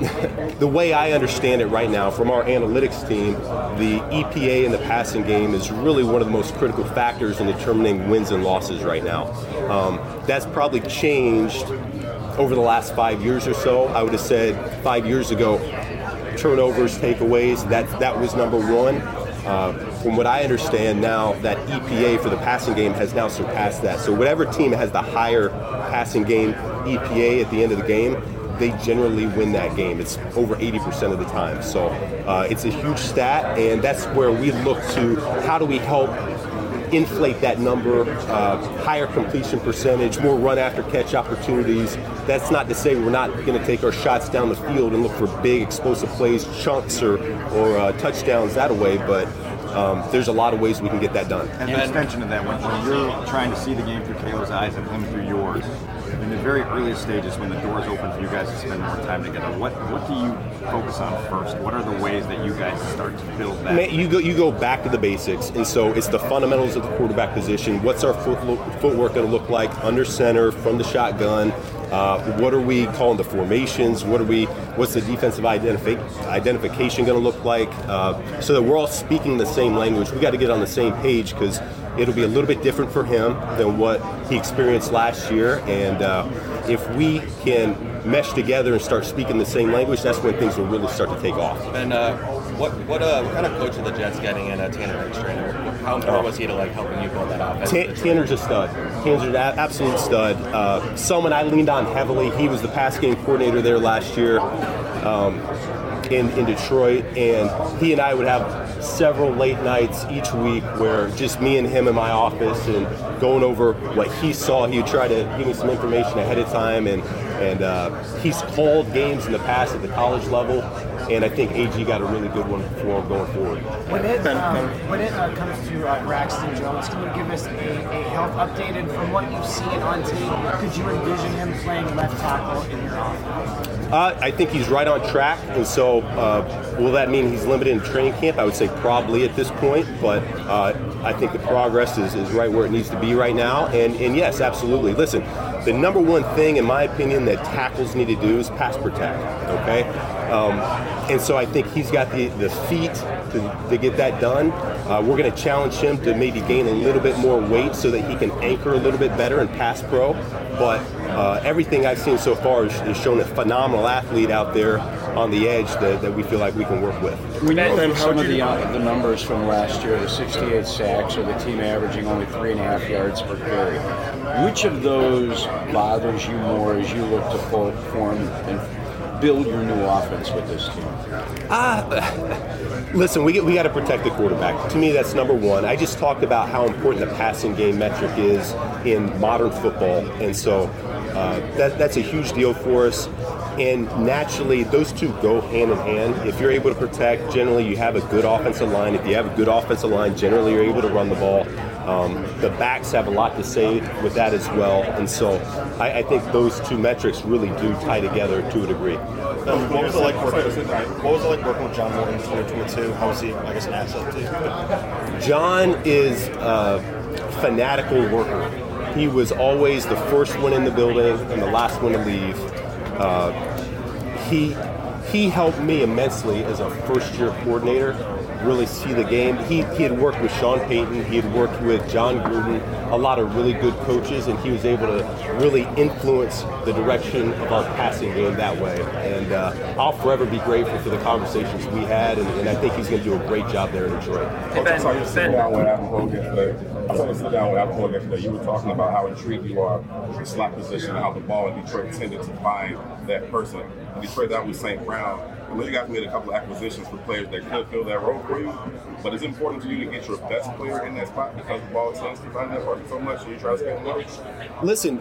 the way I understand it right now from our analytics team, the E P A in the passing game is really one of the most critical factors in determining wins and losses right now. Um, that's probably changed over the last five years or so. I would have said five years ago, turnovers, takeaways, that that was number one. Uh, from what I understand now, that E P A for the passing game has now surpassed that. So whatever team has the higher passing game E P A at the end of the game, they generally win that game. It's over eighty percent of the time. So uh, it's a huge stat, and that's where we look to how do we help inflate that number, uh, higher completion percentage, more run after catch opportunities. That's not to say we're not going to take our shots down the field and look for big explosive plays, chunks, or, or uh, touchdowns that way, but um, there's a lot of ways we can get that done. And an extension of that, when, when you're trying to see the game through Caleb's eyes and him through yours, in the very earliest stages when the doors open for you guys to spend more time together, what what do you focus on first? What are the ways that you guys start to build that? Man, you go you go back to the basics, and so it's the fundamentals of the quarterback position. What's our foot, footwork going to look like under center, from the shotgun? Uh, what are we calling the formations? What are we? What's the defensive identifi- identification going to look like? Uh, so that we're all speaking the same language. We got to get on the same page because it'll be a little bit different for him than what he experienced last year. And uh, if we can mesh together and start speaking the same language, that's when things will really start to take off. And uh, what what, uh, what kind of coach are the Jets getting in uh, Tanner Eckstrainer? How important was he to like helping you build that offense? T- Tanner's a stud. Tanner's an absolute stud. Uh, someone I leaned on heavily. He was the pass game coordinator there last year um, in, in Detroit, and he and I would have several late nights each week where just me and him in my office and going over what he saw. He would try to give me some information ahead of time, and and uh, he's called games in the past at the college level, and I think A G got a really good one for him going forward. When it um, when it uh, comes to uh, Braxton Jones, can you give us a, a health updated from what you've seen on tape? Could you envision him playing left tackle in your offense? Uh, I think he's right on track, and so uh, will that mean he's limited in training camp? I would say probably at this point, but uh, I think the progress is, is right where it needs to be right now, and, and yes, absolutely. Listen, the number one thing, in my opinion, that tackles need to do is pass protect, okay? Um, and so I think he's got the, the feet, to, to get that done. Uh, we're going to challenge him to maybe gain a little bit more weight so that he can anchor a little bit better in pass pro. But uh, everything I've seen so far has, has shown a phenomenal athlete out there on the edge that, that we feel like we can work with. When you look at some of the, uh, the numbers from last year, the sixty-eight sacks, or the team averaging only three and a half yards per carry, which of those bothers you more as you look to form and build your new offense with this team? Uh, listen, we, we got to protect the quarterback. To me, that's number one. I just talked about how important the passing game metric is in modern football, and so uh, that, that's a huge deal for us. And naturally, those two go hand in hand. If you're able to protect, generally you have a good offensive line. If you have a good offensive line, generally you're able to run the ball. Um, the backs have a lot to say with that as well. And so I, I think those two metrics really do tie together to a degree. Um, what was it like working? What was it like working with John Morton in twenty twenty-two? How was he, I guess, an asset to you? John is a fanatical worker. He was always the first one in the building and the last one to leave. Uh, he he helped me immensely as a first-year coordinator really see the game. He, he had worked with Sean Payton, he had worked with John Gruden, a lot of really good coaches, and he was able to really influence the direction of our passing game that way. And uh, I'll forever be grateful for the conversations we had, and, and I think he's going to do a great job there in Detroit. Coach, I saw you sit down with Adam Hogue yesterday. I saw you sit down with Adam Hogue yesterday. You were talking about how intrigued you are with the slot position and how the ball in Detroit tended to find that person. In Detroit, that was Saint Brown. I know you guys made a couple of acquisitions for players that could fill that role for you, but it's important to you to get your best player in that spot because the ball tends to find that person so much, and you try to scale them up. Listen,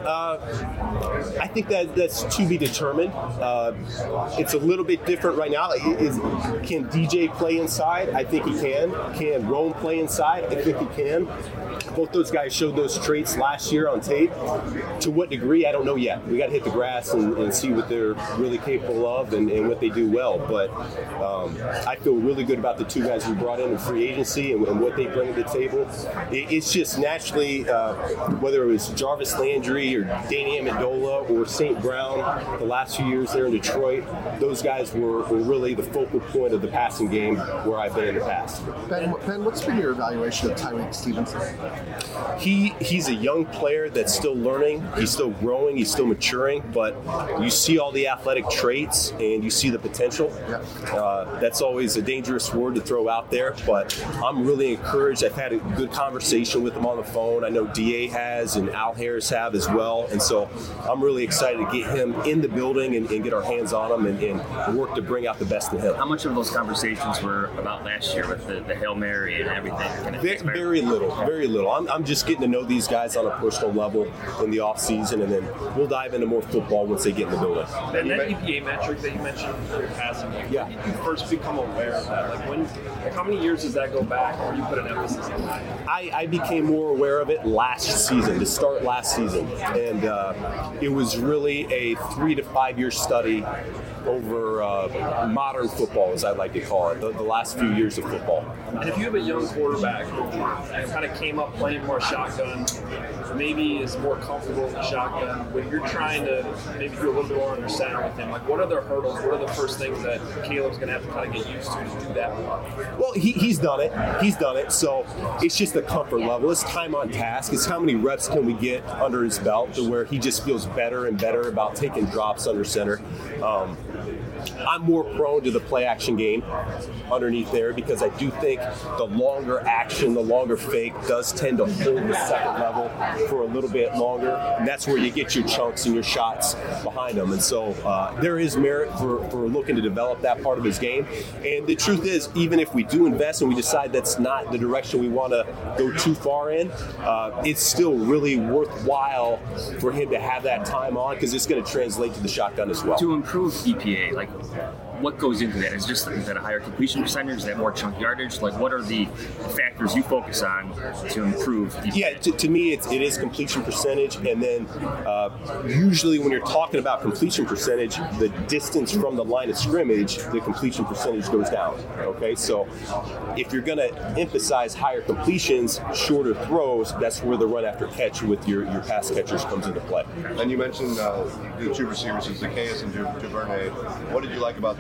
uh, I think that that's to be determined. Uh, it's a little bit different right now. Is, can D J play inside? I think he can. Can Rome play inside? I think he can. Both those guys showed those traits last year on tape. To what degree, I don't know yet. We got to hit the grass and, and see what they're really capable of and, and what they do well. But um, I feel really good about the two guys we brought in in free agency and, and what they bring to the table. It, it's just naturally, uh, whether it was Jarvis Landry or Danny Amendola or Saint Brown, the last few years there in Detroit, those guys were, were really the focal point of the passing game where I've been in the past. Ben, Ben, what's been your evaluation of Tyreek Stevenson? He he's a young player that's still learning. He's still growing. He's still maturing. But you see all the athletic traits and you see the potential. Uh, that's always a dangerous word to throw out there. But I'm really encouraged. I've had a good conversation with him on the phone. I know D A has and Al Harris have as well. And so I'm really excited to get him in the building and, and get our hands on him and, and work to bring out the best in him. How much of those conversations were about last year with the, the Hail Mary and everything? Kind of very, very little. Very little. I'm, I'm just getting to know these guys on a personal level in the off season, and then we'll dive into more football once they get in the building. And that E P A metric that you mentioned for your passing game, yeah. when did you first become aware of that? Like when, like how many years does that go back where you put an emphasis on that? I, I became more aware of it last season, to start last season, and uh, it was really a three to five year study over uh, modern football, as I like to call it, the, the last few years of football. And if you have a young quarterback who kind of came up playing more shotgun, maybe is more comfortable in the shotgun, when you're trying to maybe do a little bit more under center with him, like what are the hurdles, what are the first things that Caleb's going to have to kind of get used to to do that more? Well, he, he's done it. He's done it. So it's just the comfort level. It's time on task. It's how many reps can we get under his belt to where he just feels better and better about taking drops under center. Um, I'm more prone to the play action game underneath there because I do think the longer action, the longer fake does tend to hold the second level for a little bit longer. And that's where you get your chunks and your shots behind them. And so uh, there is merit for, for looking to develop that part of his game. And the truth is, even if we do invest and we decide that's not the direction we want to go too far in, uh, it's still really worthwhile for him to have that time on because it's going to translate to the shotgun as well. To improve E P A, like what goes into that? Is just is that a higher completion percentage? Is that more chunk yardage? Like, what are the factors you focus on to improve E P A? Yeah, to, to me, it's, it is completion percentage, and then uh, usually when you're talking about completion percentage, the distance from the line of scrimmage, the completion percentage goes down. Okay, so if you're going to emphasize higher completions, shorter throws, that's where the run after catch with your, your pass catchers comes into play. And you mentioned uh, the two receivers, Zacchaeus and Ju- Duvernay. What did you like about them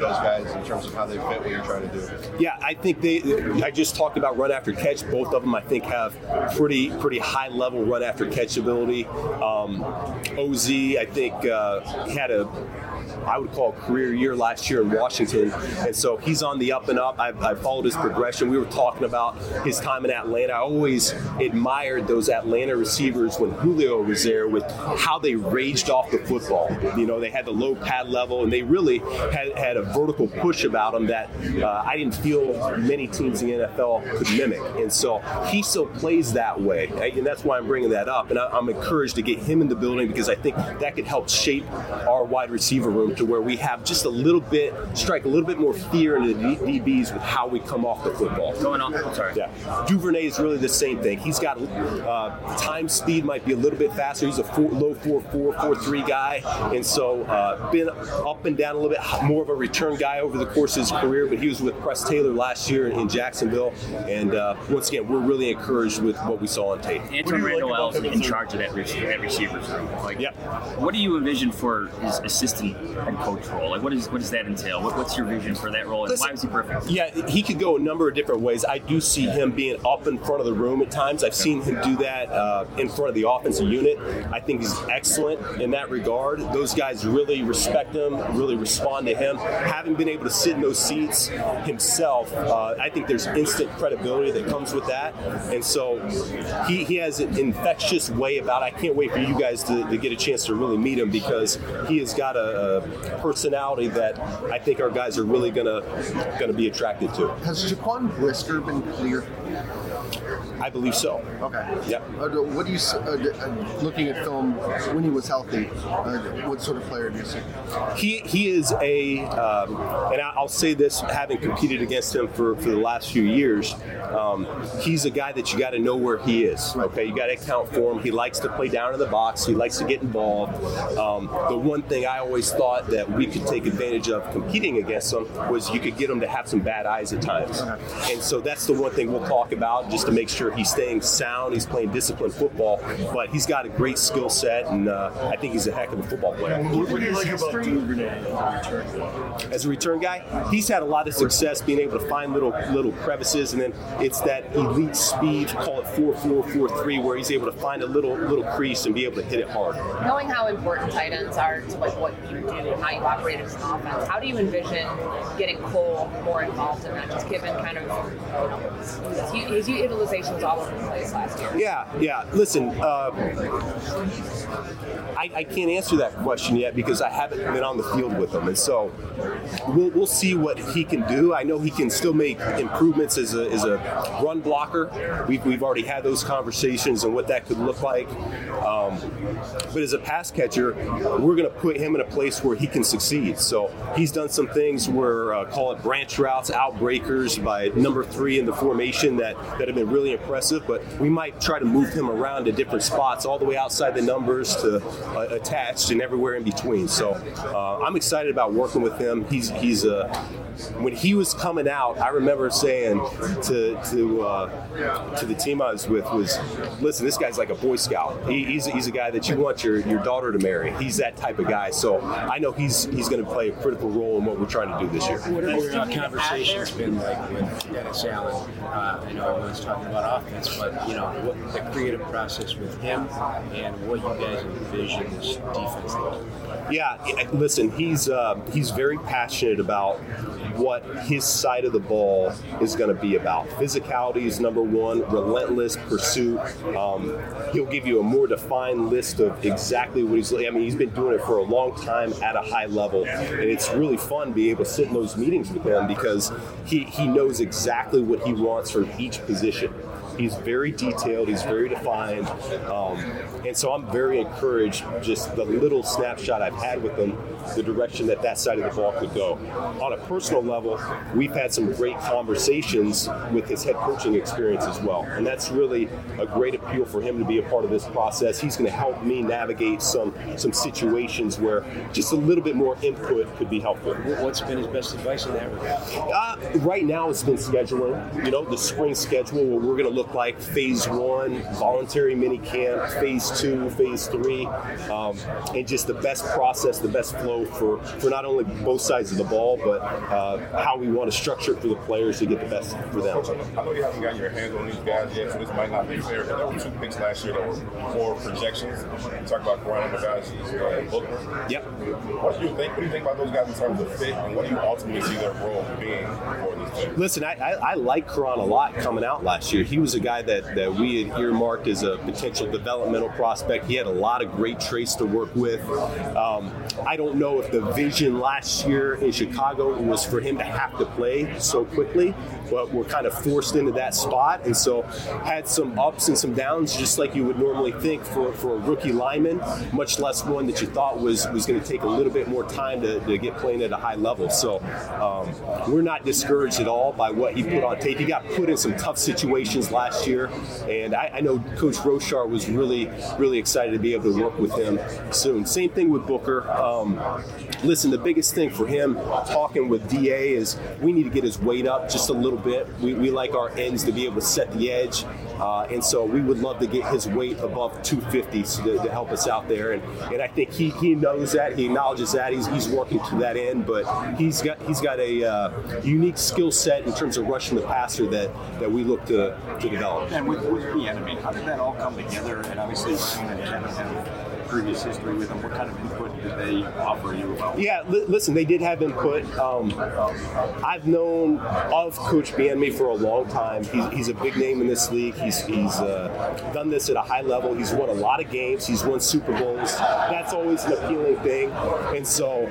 those guys in terms of how they fit what you're trying to do? Yeah, I think they. I just talked about run after catch. Both of them, I think, have pretty pretty high level run after catch ability. Um, O Z, I think, uh, had a. I would call a career year last year in Washington, and so he's on the up and up. I've, I've followed his progression. We were talking about his time in Atlanta. I always admired those Atlanta receivers when Julio was there with how they raged off the football. You know, they had the low pad level, and they really had, had a vertical push about them that uh, I didn't feel many teams in the N F L could mimic. And so he still plays that way, and that's why I'm bringing that up. And I, I'm encouraged to get him in the building because I think that could help shape our wide receiver room to where we have just a little bit, strike a little bit more fear into the D Bs with how we come off the football. Going on, sorry. Yeah. Duvernay is really the same thing. He's got uh, time speed might be a little bit faster. He's a four, low four four, four three guy, and so uh, been up and down a little bit more of a return guy over the course of his career, but he was with Press Taylor last year in Jacksonville, and uh, once again, we're really encouraged with what we saw on tape. Antoine Randall Ellis in charge of that, that receivers room. Like, yeah. What do you envision for his assistant head coach role? Like, what is what does that entail? What, what's your vision for that role, and Listen, why was he perfect? Yeah, he could go a number of different ways. I do see him being up in front of the room at times. I've seen him do that uh, in front of the offensive unit. I think he's excellent in that regard. Those guys really respect him, really respond to him. Having been able to sit in those seats himself, uh, I think there's instant credibility that comes with that. And so he, he has an infectious way about it. I can't wait for you guys to, to get a chance to really meet him because he has got a, a personality that I think our guys are really gonna gonna be attracted to. Has Jaquan Brisker been clear? I believe so. Okay. Yep. Uh, what do you, uh, looking at film when he was healthy, uh, what sort of player do you see? He he is a, um, and I'll say this, having competed against him for, for the last few years, um, he's a guy that you got to know where he is. Okay, you got to account for him. He likes to play down in the box. He likes to get involved. Um, the one thing I always thought that we could take advantage of competing against him was you could get him to have some bad eyes at times, and so that's the one thing we'll talk about just to make sure he's staying sound, he's playing disciplined football, but he's got a great skill set, and uh, I think he's a heck of a football player. What do you like about Duvernay as a return guy? As a return guy, he's had a lot of success being able to find little little crevices, and then it's that elite speed, call it four four, four three, where he's able to find a little little crease and be able to hit it hard. Knowing how important tight ends are to like what you do and how you operate as an offense, how do you envision getting Cole more involved in that, just given kind of, you know, his, his utilization was all over the place last year? Yeah, yeah. Listen, uh, I, I can't answer that question yet because I haven't been on the field with him, and so we'll, we'll see what he can do. I know he can still make improvements as a, as a run blocker. We've, we've already had those conversations and what that could look like. Um, but as a pass catcher, we're going to put him in a place where he can succeed. So he's done some things where, uh, call it branch routes, outbreakers by number three in the formation that, that have been really impressive, but we might try to move him around to different spots all the way outside the numbers to uh, attached and everywhere in between. So uh, I'm excited about working with him. He's he's uh, when he was coming out, I remember saying to to uh, to the team I was with was, listen, this guy's like a Boy Scout. He, he's he's a guy that you want your, your daughter to marry. He's that type of guy. So I know he's he's going to play a critical role in what we're trying to do this year. What have your uh, conversations been like with Dennis Allen? Uh, I know everyone's talking about offense, but you know what the creative process with him and what you guys envision this defense like. Yeah, listen, he's uh, he's very passionate about what his side of the ball is going to be about. Physicality is number one, relentless pursuit. Um, he'll give you a more defined list of exactly what he's, I mean, he's been doing it for a long time at a high level, and it's really fun being able to sit in those meetings with him because he, he knows exactly what he wants from each position. He's very detailed, he's very defined, um, and so I'm very encouraged just the little snapshot I've had with him, the direction that that side of the ball could go. On a personal level, we've had some great conversations with his head coaching experience as well, and that's really a great appeal for him to be a part of this process. He's going to help me navigate some some situations where just a little bit more input could be helpful. What's been his best advice in that regard? Uh, right now it's been scheduling, you know, the spring schedule where we're going to look look like, phase one, voluntary mini camp, phase two, phase three, um, and just the best process, the best flow for, for not only both sides of the ball, but uh, how we want to structure it for the players to get the best for them. I know you haven't gotten your hands on these guys yet, so this might not be fair, but there were two picks last year that were more projections. You talk about Karan Bougainville and Booker. Yep. What do you think? What do you think about those guys in terms of fit, and what do you ultimately see their role being for this team? Listen, I, I, I like Karan a lot coming out last year. He was a guy that, that we had earmarked as a potential developmental prospect. He had a lot of great traits to work with. Um, I don't know if the vision last year in Chicago was for him to have to play so quickly, but we're kind of forced into that spot, and so had some ups and some downs, just like you would normally think for, for a rookie lineman, much less one that you thought was, was going to take a little bit more time to, to get playing at a high level. So um, we're not discouraged at all by what he put on tape. He got put in some tough situations last year, and I, I know Coach Rochar was really, really excited to be able to work with him soon. Same thing with Booker. Um, listen, the biggest thing for him, talking with D A, is we need to get his weight up just a little bit. We, we like our ends to be able to set the edge, uh, and so we would love to get his weight above two fifty to, to help us out there. And, and I think he, he knows that. He acknowledges that. He's, he's working to that end, but he's got he's got a uh, unique skill set in terms of rushing the passer that, that we look to, to develop. And with, with the enemy, how did that all come together? And obviously Ryan and Kevin have previous history with them. What kind of input did they offer you about? Yeah, li- listen, they did have input. Um, I've known of Coach Bieniemy for a long time. He's, he's a big name in this league. He's he's uh, done this at a high level. He's won a lot of games. He's won Super Bowls. That's always an appealing thing. And so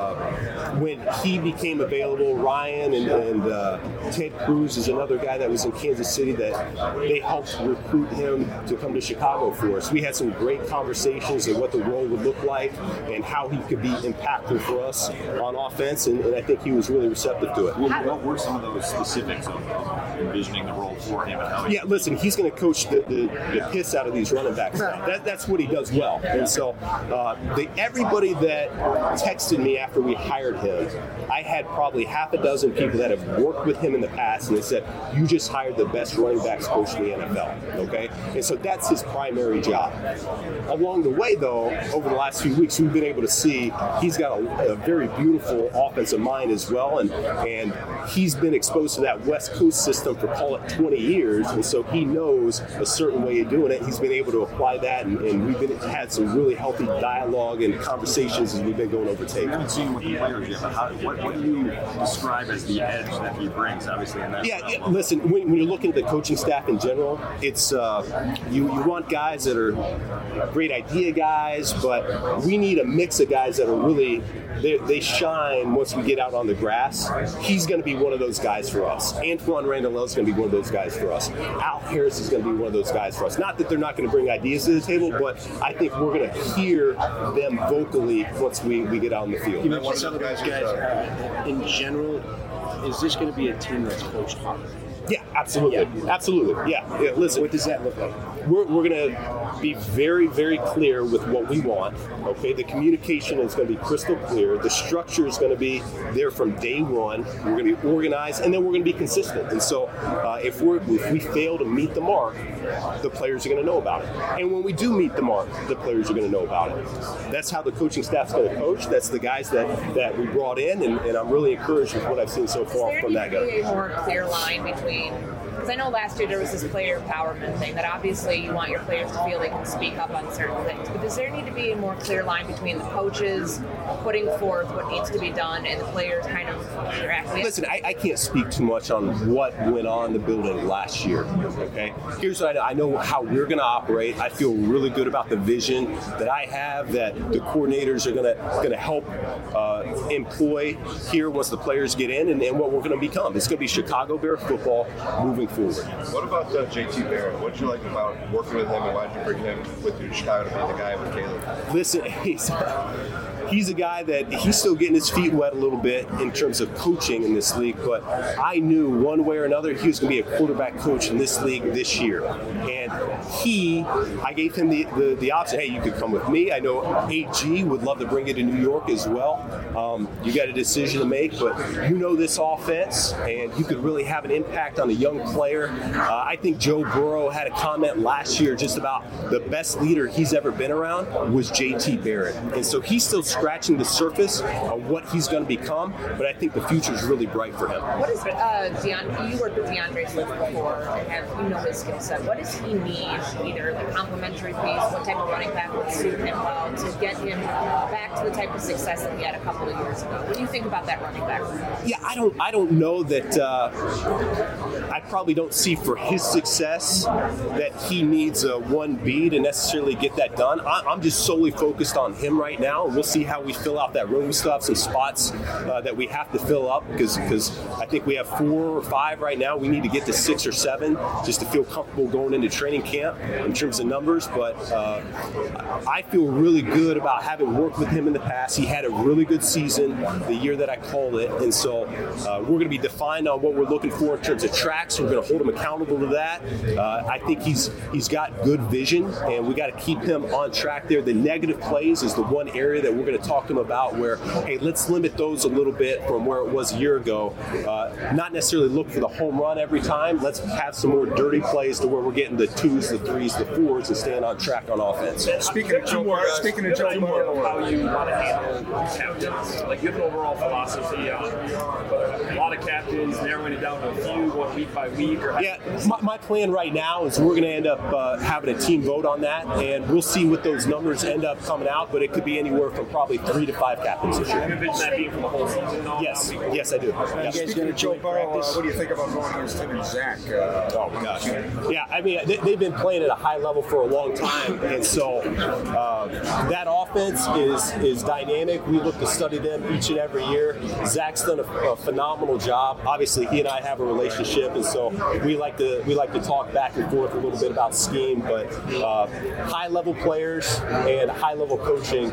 uh, when he became available, Ryan and, and uh, Ted Cruz is another guy that was in Kansas City that they helped recruit him to come to Chicago for us. We had some great conversations of what the role would look like and how he could be impactful for us on offense, and, and I think he was really receptive to it. What, what were some of those specifics of envisioning the role for him and how he... Yeah, listen, he's going to coach the, the, the piss out of these running backs now. That, that's what he does well. And so uh, they, everybody that texted me after we hired him, I had probably half a dozen people that have worked with him in the past, and they said, you just hired the best running backs coach in the N F L, okay? And so that's his primary job. Along the way, though, over the last few weeks, we've been able to see he's got a, a very beautiful offensive mind as well, and and he's been exposed to that West Coast system for, call it, twenty years, and so he knows a certain way of doing it. He's been able to apply that, and, and we've been had some really healthy dialogue and conversations as we've been going over tape. I haven't seen him with the players yet, but how, what, what do you describe as the edge that he brings, obviously, in that? Yeah, yeah listen, when, when you're looking at the coaching staff in general, it's uh, you, you want guys that are great idea guys, but we need a mix of guys that are really, they, they shine once we get out on the grass. He's going to be one of those guys for us. Antoine Randall is going to be one of those guys for us. Al Harris is going to be one of those guys for us. Not that they're not going to bring ideas to the table, but I think we're going to hear them vocally once we, we get out on the field. You mentioned some of those guys uh, in general. Is this going to be a team that's coached hard? Yeah, absolutely. Yeah. Absolutely. Yeah. yeah. Listen. What does that look like? We're, we're going to be very, very clear with what we want. Okay. The communication is going to be crystal clear. The structure is going to be there from day one. We're going to be organized, and then we're going to be consistent. And so, uh, if we if we fail to meet the mark, the players are going to know about it. And when we do meet the mark, the players are going to know about it. That's how the coaching staff's going to coach. That's the guys that, that we brought in, and, and I'm really encouraged with what I've seen so far from that guy. Is there need to be a more clear line between? Because I know last year there was this player empowerment thing that obviously you want your players to feel they can speak up on certain things. But does there need to be a more clear line between the coaches putting forth what needs to be done and the players kind of interacting? Listen, I, I can't speak too much on what went on in the building last year. Okay, here's what I know. I know how we're going to operate. I feel really good about the vision that I have, that the coordinators are going to going to help uh, employ here once the players get in, and, and what we're going to become. It's going to be Chicago Bear football moving forward. What about uh, J T Barrett? What did you like about working with him, and why did you bring him with you to Chicago to be the guy with Caleb? Listen, he's he's a guy that he's still getting his feet wet a little bit in terms of coaching in this league, but I knew one way or another he was going to be a quarterback coach in this league this year. And And he, I gave him the, the, the option, hey, you could come with me. I know A G would love to bring you to New York as well. Um, you got a decision to make, but you know this offense, and you could really have an impact on a young player. Uh, I think Joe Burrow had a comment last year just about the best leader he's ever been around was J T Barrett. And so he's still scratching the surface of what he's going to become, but I think the future is really bright for him. What is uh, Deon? You worked with DeAndre Swift before, and have you know his skill set. What does he need? Either like complementary piece, what type of running back would suit him well to get him back to the type of success that he had a couple of years ago? What do you think about that running back? Yeah, I don't. I don't know that. Uh, I probably don't see for his success that he needs a one B to necessarily get that done. I, I'm just solely focused on him right now, and we'll see how we fill out that room. We still have some spots uh, that we have to fill up because because I think we have four or five right now. We need to get to six or seven just to feel comfortable going into training camp in terms of numbers. But uh, I feel really good about having worked with him in the past. He had a really good season the year that I called it, and so uh, we're going to be defined on what we're looking for in terms of tracks. We're going to hold him accountable to that. Uh, I think he's he's got good vision, and we got to keep him on track there. The negative plays is the one area that we're going to talk to him about where, hey, let's limit those a little bit from where it was a year ago. Uh, not necessarily look for the home run every time. Let's have some more dirty plays to where we're getting the twos, the threes, the fours, and staying on track on offense. Speaking of Joe Burrow, speaking of Joe Burrow, how you want to handle captains, like you have an overall philosophy on a lot of captains, narrowing it down to a few, going week by week. Or yeah, my, my plan right now is we're going to end up uh, having a team vote on that, and we'll see what those numbers end up coming out. But it could be anywhere from probably three to five captains this year. You envision that being for the whole season? Though? Yes, yes, I do. Yeah. Speaking of Joe Burrow, uh, what do you think about going against him and Zach? Uh, oh my gosh. Yeah, I mean, they, they've been playing at a high level for a long time, and so uh, that offense is is dynamic. We look to study them each and every year. Zach's done a, a phenomenal job. Obviously, he and I have a relationship, and so we like to we like to talk back and forth a little bit about scheme. But uh, high level players and high level coaching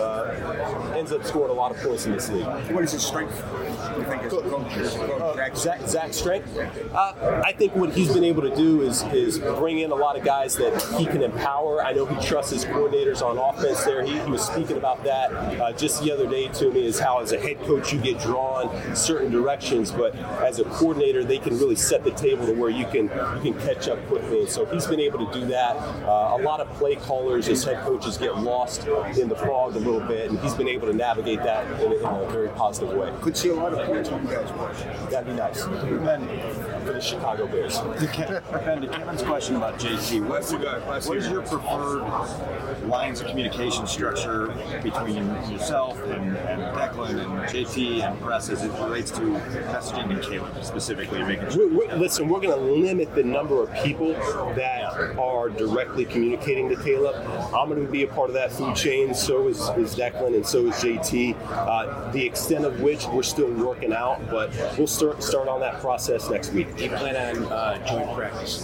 uh, ends up scoring a lot of points in this league. What is his strength? You think his coach? Zach, Zach's strength? Uh, I think what he's been able to do is is bring in a lot of guys that he can empower. I know he trusts his coordinators on offense there. He, he was speaking about that uh, just the other day to me, is how as a head coach you get drawn certain directions, but as a coordinator they can really set the table to where you can you can catch up quickly. And so he's been able to do that. Uh, a lot of play callers as head coaches get lost in the fog a little bit, and he's been able to navigate that in a, in a very positive way. Could see a lot of points when you guys watch. That'd be nice. Ben, for the Chicago Bears. Ben, to Kevin's question about J T, what's, what is your preferred lines of communication structure between yourself and, and Declan and J T and press as it relates to messaging and Caleb specifically? Making sure. We're, we're, listen, we're going to limit the number of people that are directly communicating to Caleb. I'm going to be a part of that food chain. So is, is Declan, and so is J T. Uh, the extent of which we're still working out, but we'll start start on that process next week. Do you plan on uh, joint practices?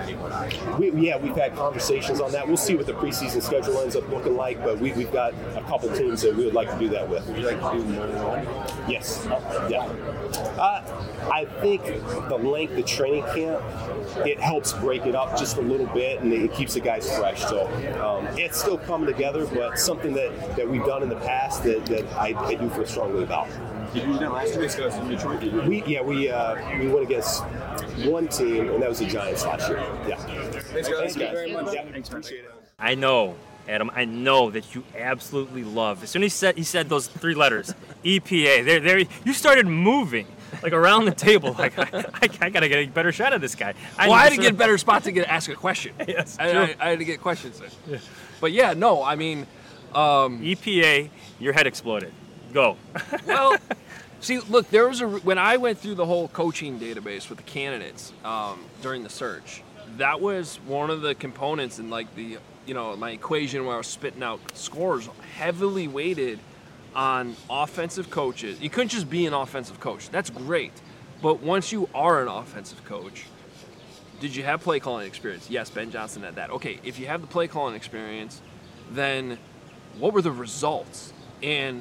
We, yeah, we've had conversations on that. We'll see what the preseason schedule ends up looking like, but we, we've got a couple teams that we would like to do that with. Would you like to do more than one? Yes. Yeah. Uh, I think the length of training camp, it helps break it up just a little bit, and it keeps the guys fresh. So um, it's still coming together, but something that, that we've done in the past that, that I, I do feel strongly about. Did you do that last week against Detroit? Did you? We yeah we uh, we went against one team, and that was the Giants last year. Yeah. Thanks, guys. Thanks, guys. Very much. Yeah, thanks, appreciate it. I know, Adam. I know that you absolutely love. As soon as he said he said those three letters, E P A. There, there. You started moving like around the table. Like I, I, I gotta get a better shot of this guy. I well, I had to get a better spot to get ask a question. Yes, I, I, I had to get questions there. Yeah. But yeah, no, I mean, um, E P A. Your head exploded. Go. Well, see, look, there was a when I went through the whole coaching database with the candidates um, during the search. That was one of the components in like the you know my equation where I was spitting out scores, heavily weighted on offensive coaches. You couldn't just be an offensive coach. That's great, but once you are an offensive coach, did you have play calling experience? Yes, Ben Johnson had that. Okay, if you have the play calling experience, then what were the results? And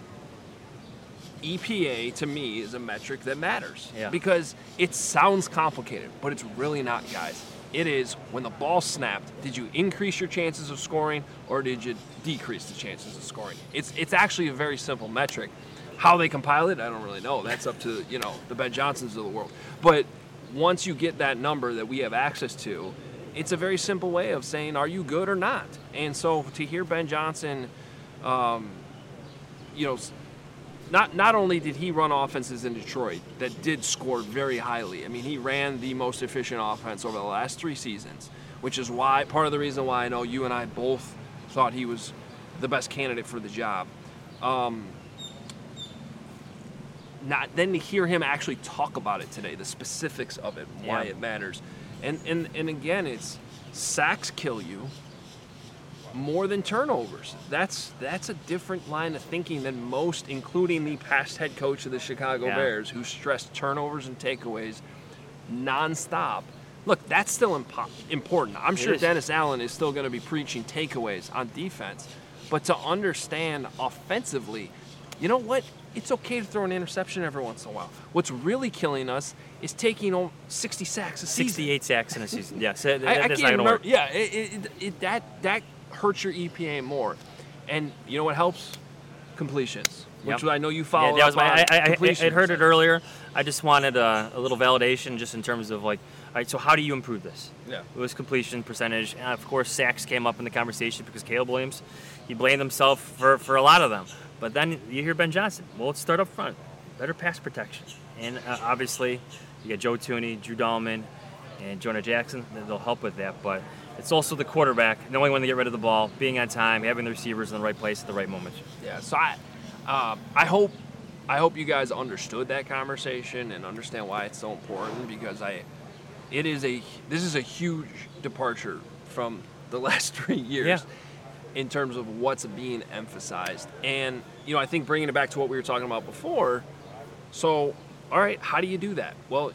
E P A to me is a metric that matters yeah. because it sounds complicated, but it's really not, guys. It is when the ball snapped, did you increase your chances of scoring or did you decrease the chances of scoring? It's it's actually a very simple metric. How they compile it, I don't really know. That's up to, you know, the Ben Johnsons of the world. But once you get that number that we have access to, it's a very simple way of saying, are you good or not? And so to hear Ben Johnson, um, you know, Not not only did he run offenses in Detroit that did score very highly. I mean, he ran the most efficient offense over the last three seasons, which is why part of the reason why I know you and I both thought he was the best candidate for the job. Um, not then to hear him actually talk about it today, the specifics of it, why Yeah. it matters, and and and again, it's sacks kill you more than turnovers. That's that's a different line of thinking than most, including the past head coach of the Chicago Yeah. Bears, who stressed turnovers and takeaways nonstop. Look, that's still impo- important. I'm It sure is. Dennis Allen is still going to be preaching takeaways on defense, but to understand offensively, you know what? It's okay to throw an interception every once in a while. What's really killing us is taking on sixty sacks a season. sixty-eight sacks in a season. Yes, that, I, I that's can't not going to remember. work. Yeah, it, it, it, that that hurts your E P A more, and you know what helps? Completions, which Yep. I know you follow. Yeah, that was my. I, I, I, I completions. heard it earlier. I just wanted a, a little validation, just in terms of like, all right. So how do you improve this? Yeah. It was completion percentage, and of course sacks came up in the conversation because Caleb Williams, he blamed himself for for a lot of them. But then you hear Ben Johnson. Well, let's start up front. Better pass protection, and uh, obviously you got Joe Thuney, Drew Dahlman, and Jonah Jackson. They'll help with that, but. It's also the quarterback knowing when to get rid of the ball, being on time, having the receivers in the right place at the right moment. Yeah. So I, uh, I hope, I hope you guys understood that conversation and understand why it's so important, because I, it is a this is a huge departure from the last three years. Yeah. In terms of what's being emphasized. And, you know, I think bringing it back to what we were talking about before, so, all right, how do you do that? Well,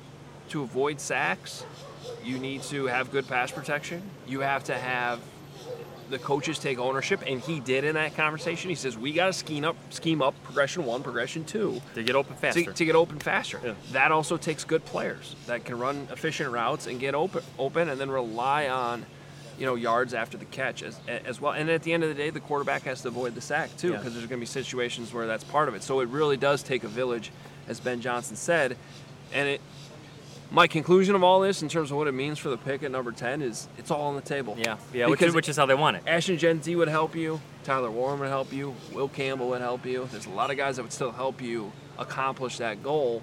to avoid sacks, you need to have good pass protection. You have to have the coaches take ownership, and he did in that conversation. He says, we got to scheme up, scheme up progression one, progression two. To get open faster. To, to get open faster. Yeah. That also takes good players that can run efficient routes and get open, open and then rely on, you know, yards after the catch as, as well. And at the end of the day, the quarterback has to avoid the sack too, because Yeah. there's going to be situations where that's part of it. So it really does take a village, as Ben Johnson said. And it, my conclusion of all this, in terms of what it means for the pick at number ten, is it's all on the table. Yeah, yeah, which is, Because which is how they want it. Ashton Genty would help you. Tyler Warren would help you. Will Campbell would help you. There's a lot of guys that would still help you accomplish that goal.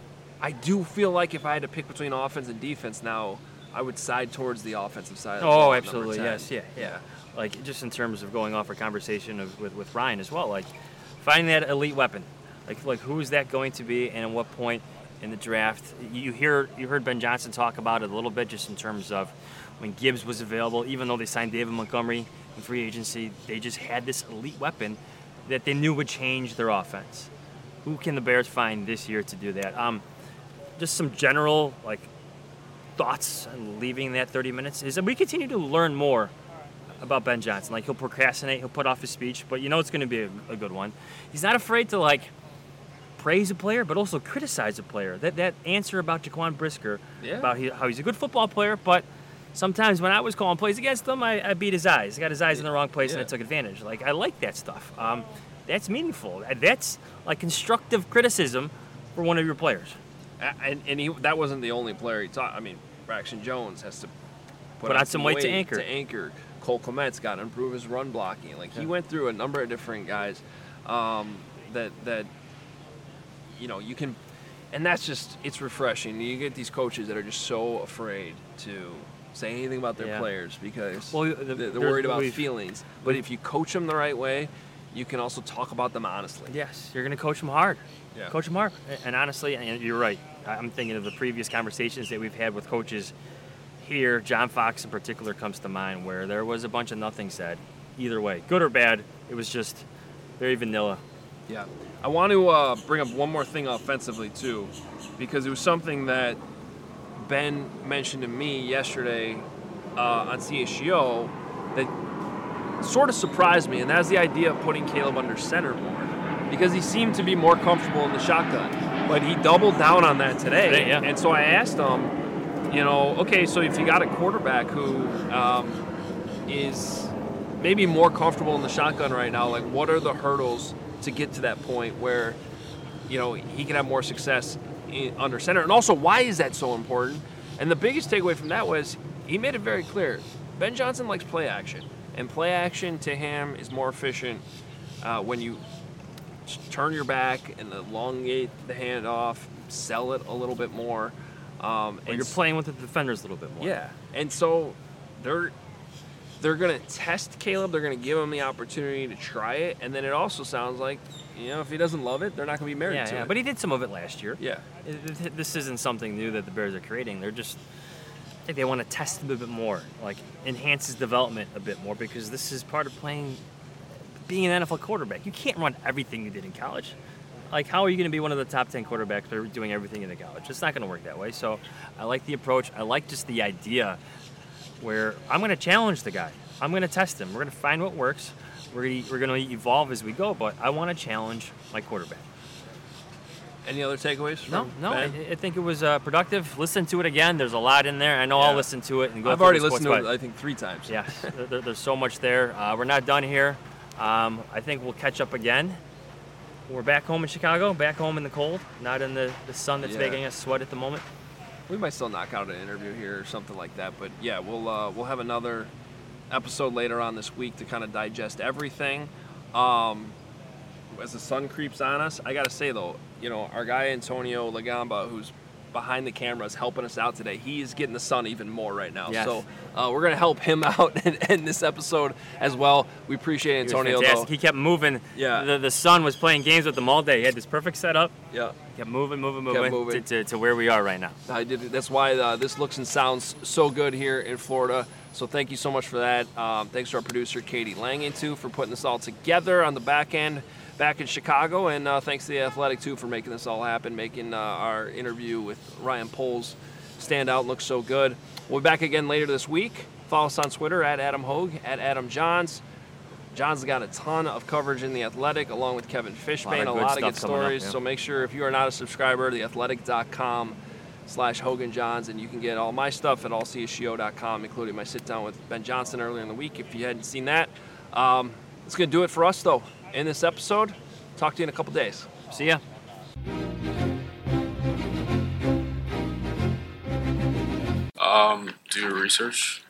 I do feel like if I had to pick between offense and defense now, I would side towards the offensive side. Of the ball Oh, at number absolutely, ten. yes, yeah, yeah. Like, just in terms of going off our conversation of, with, with Ryan as well, like, finding that elite weapon. Like, like who is that going to be, and at what point in the draft? You hear you heard Ben Johnson talk about it a little bit, just in terms of when Gibbs was available. Even though they signed David Montgomery in free agency, they just had this elite weapon that they knew would change their offense. Who can the Bears find this year to do that? Um, just some general like thoughts on leaving that thirty minutes is that we continue to learn more about Ben Johnson. Like, he'll procrastinate, he'll put off his speech, but you know it's going to be a, a good one. He's not afraid to like praise a player, but also criticize a player. That that answer about Jaquan Brisker, Yeah. about he, how he's a good football player, but sometimes when I was calling plays against him, I, I beat his eyes. I got his eyes in the wrong place, and I Yeah. took advantage. Like, I like that stuff. Um, that's meaningful. That's like constructive criticism for one of your players. A- And, and he, that wasn't the only player he taught. I mean, Braxton Jones has to put, Put on some weight to anchor. To anchor. Cole Kmet's got to improve his run blocking. Like, he Yeah. went through a number of different guys um, that that you know you can, and that's just it's refreshing. You get these coaches that are just so afraid to say anything about their Yeah. players because Well, the- they're, they're there's- worried about we've- feelings. But if you coach them the right way, you can also talk about them honestly. Yes, you're going to coach them hard. Yeah. Coach them hard. And honestly, and you're right. I'm thinking of the previous conversations that we've had with coaches here. John Fox in particular comes to mind, where there was a bunch of nothing said. Either way, good or bad, it was just very vanilla. Yeah. I want to uh, bring up one more thing offensively, too, because it was something that Ben mentioned to me yesterday uh, on C H G O that sort of surprised me, and that's the idea of putting Caleb under center more, because he seemed to be more comfortable in the shotgun. But he doubled down on that today. Today, yeah. And so I asked him, you know, okay, so if you got a quarterback who um, is maybe more comfortable in the shotgun right now, like what are the hurdles to get to that point where, you know, he can have more success in, under center? And also, why is that so important? And the biggest takeaway from that was he made it very clear. Ben Johnson likes play action, and play action to him is more efficient uh, when you turn your back and elongate the handoff, sell it a little bit more. Um, and you're playing with the defenders a little bit more. Yeah, and so they're they're going to test Caleb. They're going to give him the opportunity to try it, and then it also sounds like, you know, if he doesn't love it, they're not going to be married yeah, to yeah. it. But he did some of it last year. Yeah. It, it, this isn't something new that the Bears are creating. They're just, I think they want to test him a bit more, like enhance his development a bit more, because this is part of playing, being an N F L quarterback. You can't run everything you did in college. Like, how are you going to be one of the top ten quarterbacks by doing everything in the college? It's not going to work that way. So I like the approach. I like just the idea where I'm going to challenge the guy. I'm going to test him. We're going to find what works. We're going to, we're going to evolve as we go, but I want to challenge my quarterback. Any other takeaways from No, no. I, Ben? I think it was uh, productive. Listen to it again. There's a lot in there. I know Yeah. I'll listen to it and go I've through already the sports listened to it, vibe. I think, three times. Yeah, there, there- there's so much there. Uh, we're not done here. Um, I think we'll catch up again. We're back home in Chicago, back home in the cold, not in the, the sun that's Yeah. making us sweat at the moment. We might still knock out an interview here or something like that, but yeah, we'll uh, we'll have another episode later on this week to kind of digest everything. Um, as the sun creeps on us, I gotta say though, you know, our guy Antonio Lagamba, who's behind the cameras helping us out today, he is getting the sun even more right now. Yes. So uh, we're gonna help him out in, in this episode as well. We appreciate He was Antonio fantastic. though. He kept moving. Yeah. The, the sun was playing games with him all day. He had this perfect setup. Yeah. Kept moving, moving, Kept moving, moving. To, to, to where we are right now. I did. That's why uh, this looks and sounds so good here in Florida. So thank you so much for that. Um, thanks to our producer Katie Langen too for putting this all together on the back end, back in Chicago, and uh, thanks to the Athletic too for making this all happen, making uh, our interview with Ryan Poles stand out and look so good. We'll be back again later this week. Follow us on Twitter at Adam Hogue, at Adam Johns. John's got a ton of coverage in The Athletic, along with Kevin Fishbane, a good lot of good stuff coming up, stories. yeah. So make sure, if you are not a subscriber, the athletic dot com slash Hogan Johns, and you can get all my stuff at all c s g o dot com, including my sit-down with Ben Johnson earlier in the week, if you hadn't seen that. Um, that's going to do it for us, though, in this episode. Talk to you in a couple days. See ya. Um, do your research.